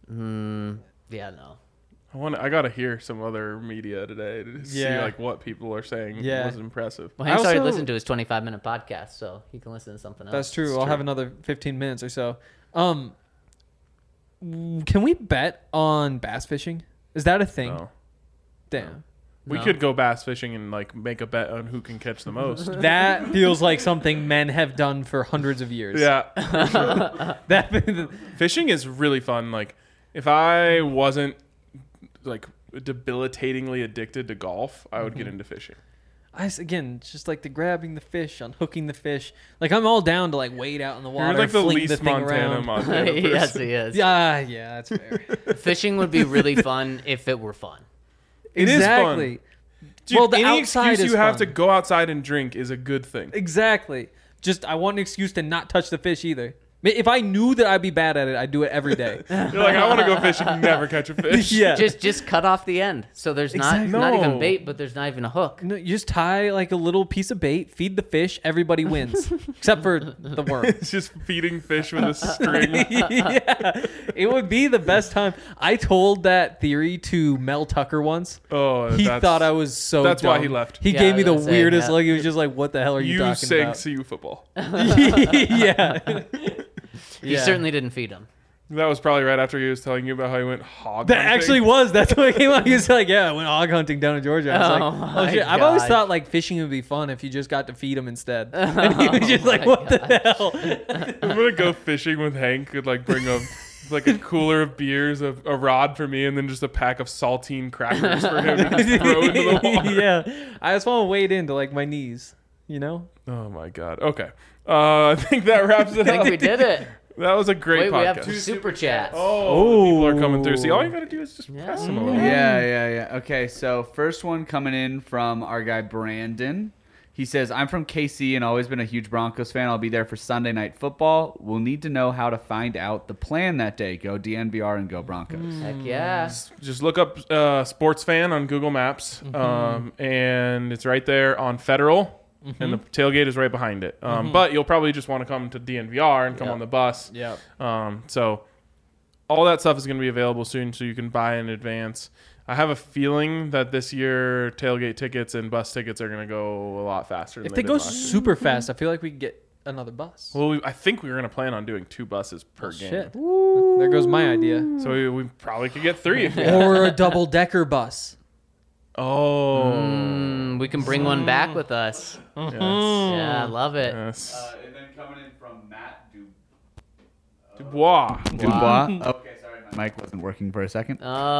Yeah, no. I want. I gotta hear some other media today to see Yeah. like what people are saying Yeah. was impressive. Well, he I started also- listening to his twenty-five minute podcast, so he can listen to something else. That's true. It's I'll true. have another fifteen minutes or so. Um, w- can we bet on bass fishing? Is that a thing? No. Damn. We No. could go bass fishing and like make a bet on who can catch the most. That feels like something men have done for hundreds of years. Yeah. That Fishing is really fun. Like, if I wasn't like debilitatingly addicted to golf, I would get into fishing. I s- again, it's just like the grabbing the fish, unhooking the fish. Like I'm all down to like wade out in the water, You're like the fling least the thing Montana around. Montana person. yes, he is. Yeah, yeah, that's fair. Fishing would be really fun if it were fun. It is fun. exactly. Dude, Well, the any outside excuse is you have fun. to go outside and drink is a good thing. Exactly. Just I want an excuse to not touch the fish either. I mean, if I knew that I'd be bad at it, I'd do it every day. You're like, I want to go fishing, never catch a fish. yeah. Just just cut off the end. So there's Exactly. not not No. even bait, but there's not even a hook. No, you just tie like a little piece of bait, feed the fish, everybody wins, except for the worm. It's just feeding fish with a string. yeah, it would be the best time. I told that theory to Mel Tucker once. Oh, He that's, thought I was so. that's why dumb. he left. He Yeah, gave me I the was gonna say, weirdest yeah. look. He was just like, "What the hell are you, You talking sang about?" C U football. yeah, You Yeah. certainly didn't feed him. That was probably right after he was telling you about how he went hog that hunting. actually was. That's what came out. He was like, "Yeah, I went hog hunting down in Georgia." I was Oh like, "Oh my shit!" I've always gosh. thought like fishing would be fun if you just got to feed him instead. And he was just Oh like, my "What the hell?" I'm gonna go fishing with Hank and like bring a like a cooler of beers, a, a rod for me, and then just a pack of saltine crackers for him to just throw into the water. yeah, I just want to wade into like my knees. You know. Oh my god. Okay. Uh, I think that wraps it I think up. we did it. That was a great Wait, we podcast. have two super chats. Oh, people are coming through. See, all you gotta do is just press them a little. Yeah, yeah, yeah. Okay, so first one coming in from our guy Brandon. He says, I'm from K C and always been a huge Broncos fan. I'll be there for Sunday Night Football. We'll need to know how to find out the plan that day. Go D N V R and go Broncos. Heck yeah. Just look up uh, Sports Fan on Google Maps, um, and it's right there on Federal, and the tailgate is right behind it. Um, But you'll probably just want to come to D N V R and come Yep. on the bus. Yeah. Um, so all that stuff is going to be available soon, so you can buy in advance. I have a feeling that this year tailgate tickets and bus tickets are going to go a lot faster. Than If they they did go last year. super fast, I feel like we could get another bus. Well, we, I think we were going to plan on doing two buses per game. Shit. There goes my idea. So we, we probably could get three. If we Or a double decker bus. Oh. Mm, we can bring one back with us. Yes. Yeah, I love it. Yes. and then coming in from Matt Du- Dubois. Dubois. Okay, sorry, my mic wasn't working for a second.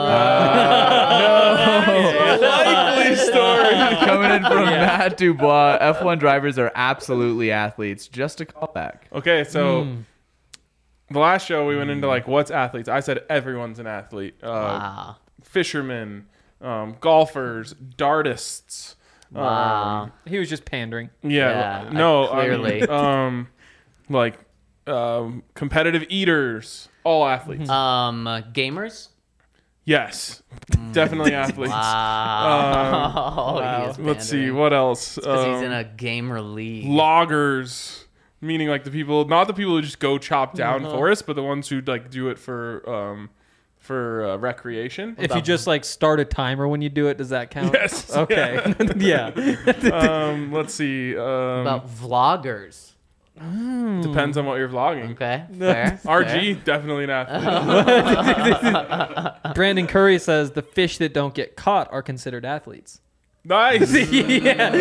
Likely story. Coming in from Matt Dubois. F one drivers are absolutely athletes. Just a callback. Okay, so the last show we went into like what's athletes. I said everyone's an athlete. Uh, Wow. Fishermen, um, golfers, dartists. Wow. He was just pandering. Yeah, Yeah, no, I- clearly. I mean, um, like um, competitive eaters, all athletes. Um, uh, gamers? Yes, definitely athletes. Wow. He is Let's see pandering. what else. Because he's in Um, a gamer league. loggers, meaning like the people, not the people who just go chop down Uh-huh. forests, but the ones who like do it for um, for uh, recreation. If you just like start a timer when you do it, does that count? Yes. Okay. Yeah. um, let's see. Um, About vloggers. depends on what you're vlogging. Okay. Fair. R fair. G, definitely an athlete. Brandon Curry says the fish that don't get caught are considered athletes. Nice. yeah.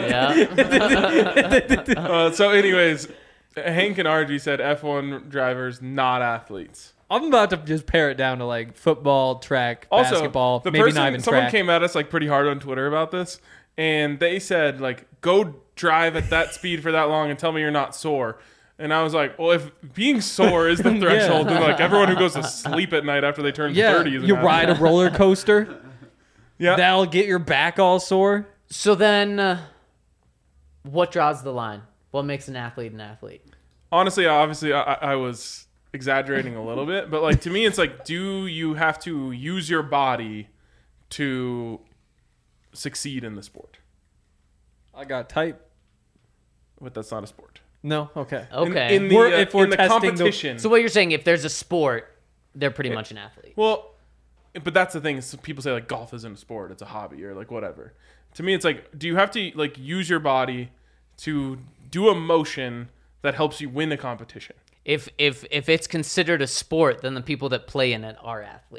Yeah. uh, so, anyways, Hank and R G said F one drivers not athletes. I'm about to just pare it down to like football, track, Also, basketball, the maybe person, not even someone track. came at us like pretty hard on Twitter about this, and they said like, "Go drive at that speed for that long and tell me you're not sore." And I was like, "Well, if being sore is the threshold, then like everyone who goes to sleep at night after they turn yeah, thirty is an you athlete." ride a roller coaster. Yeah. That'll get your back all sore. So then, uh, what draws the line? What makes an athlete an athlete? Honestly, obviously, I, I was exaggerating a little bit, but like to me, it's like, do you have to use your body to succeed in the sport? I got type. But that's not a sport. No, okay. In- Okay. In, the, We're- uh, if we're in the testing the- competition. So what you're saying, if there's a sport, they're pretty much an athlete. Well, but that's the thing. Is people say like golf isn't a sport; it's a hobby, or like whatever. To me, it's like, do you have to like use your body to do a motion that helps you win a competition? If if if it's considered a sport, then the people that play in it are athletes.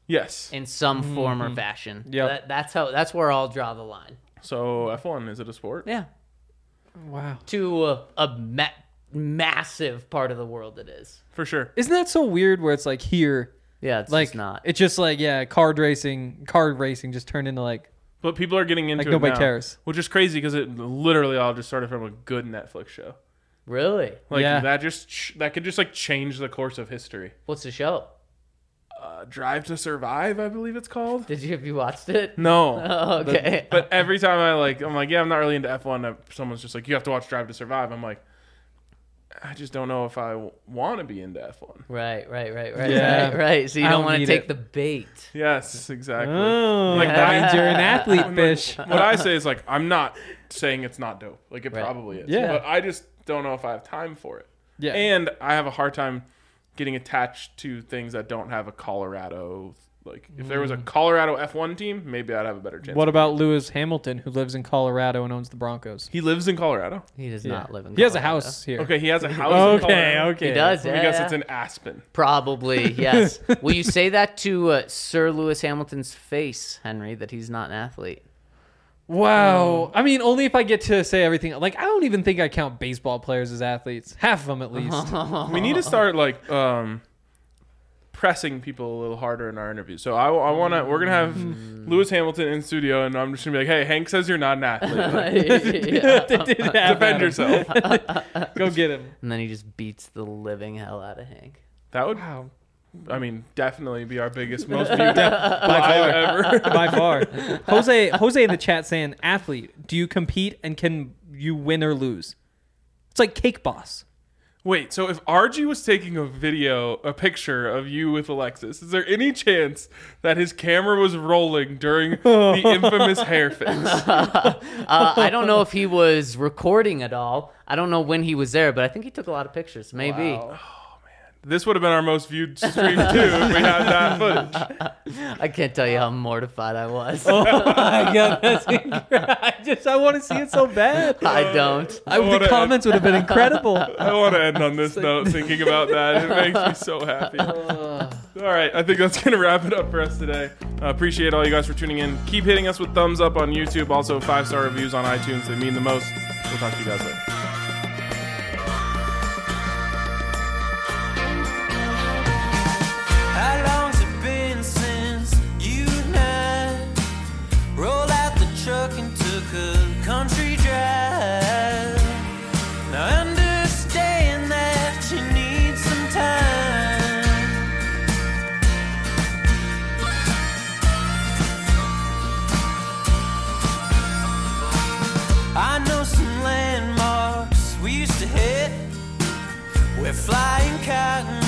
Yes. in some form or fashion. Yep. That, that's how. That's where I'll draw the line. So F one, is it a sport? Yeah. Wow. To a, a ma- massive part of the world, it is. For sure. Isn't that so weird where it's like here, Yeah, it's like just not. it's just like, yeah, card racing, card racing just turned into like, But people are getting into Like, it nobody now, cares. which is crazy because it literally all just started from a good Netflix show. Really? Like Yeah. that just ch- that could just like change the course of history. What's the show? Uh, Drive to Survive, I believe it's called. Did you have you watched it? No. Oh, okay. But every time I like, I'm like, yeah, I'm not really into F one. uh, Someone's just like, you have to watch Drive to Survive. I'm like, I just don't know if I w- want to be into F one. Right, right, right, right, Yeah. right, right. So you I don't don't want to need take it. the bait. Yes, exactly. oh, Like, that I- means you're an athlete, fish. What I say is like, I'm not saying it's not dope. Like it Right. probably is. Yeah. But I just don't know if I have time for it. Yeah. And I have a hard time getting attached to things that don't have a Colorado. Like if there was a Colorado F one team, maybe I'd have a better chance. What about Lewis Hamilton, who lives in Colorado and owns the Broncos? He lives in Colorado. He does Yeah. not live in. He has a Colorado. house here. Okay, he has a house in Okay, Colorado. okay. He does. Let Yeah, me guess yeah. it's in Aspen. Probably yes. Will you say that to uh, Sir Lewis Hamilton's face, Henry, that he's not an athlete? Wow. I mean, only if I get to say everything. Like, I don't even think I count baseball players as athletes. Half of them, at least. We need to start like um, pressing people a little harder in our interviews. So I, I want to. We're gonna have Lewis Hamilton in studio, and I'm just gonna be like, "Hey, Hank says you're not an athlete. Like, Yeah. They did have defend Adam. yourself." Go get him. And then he just beats the living hell out of Hank. That would, Wow. I mean, definitely be our biggest, most viewed live By far. ever. By far. Jose Jose in the chat saying, athlete, do you compete and can you win or lose? It's like Cake Boss. Wait, so if R G was taking a video, a picture of you with Alexis, is there any chance that his camera was rolling during the infamous hair fix? Uh, I don't know if he was recording at all. I don't know when he was there, but I think he took a lot of pictures. Maybe. Wow. This would have been our most viewed stream too if we had that footage. I can't tell you how mortified I was. Oh my god, that's incredible. I just I want to see it so bad. I don't. I, the wanna- comments would have been incredible. I want to end on this note thinking about that. It makes me so happy. All right, I think that's going to wrap it up for us today. Uh, appreciate all you guys for tuning in. Keep hitting us with thumbs up on YouTube. Also, five-star reviews on iTunes. They mean the most. We'll talk to you guys later. How long's it been since you and I rolled out the truck and took a country drive? Now I understand that you need some time. I know some landmarks we used to hit where flying cotton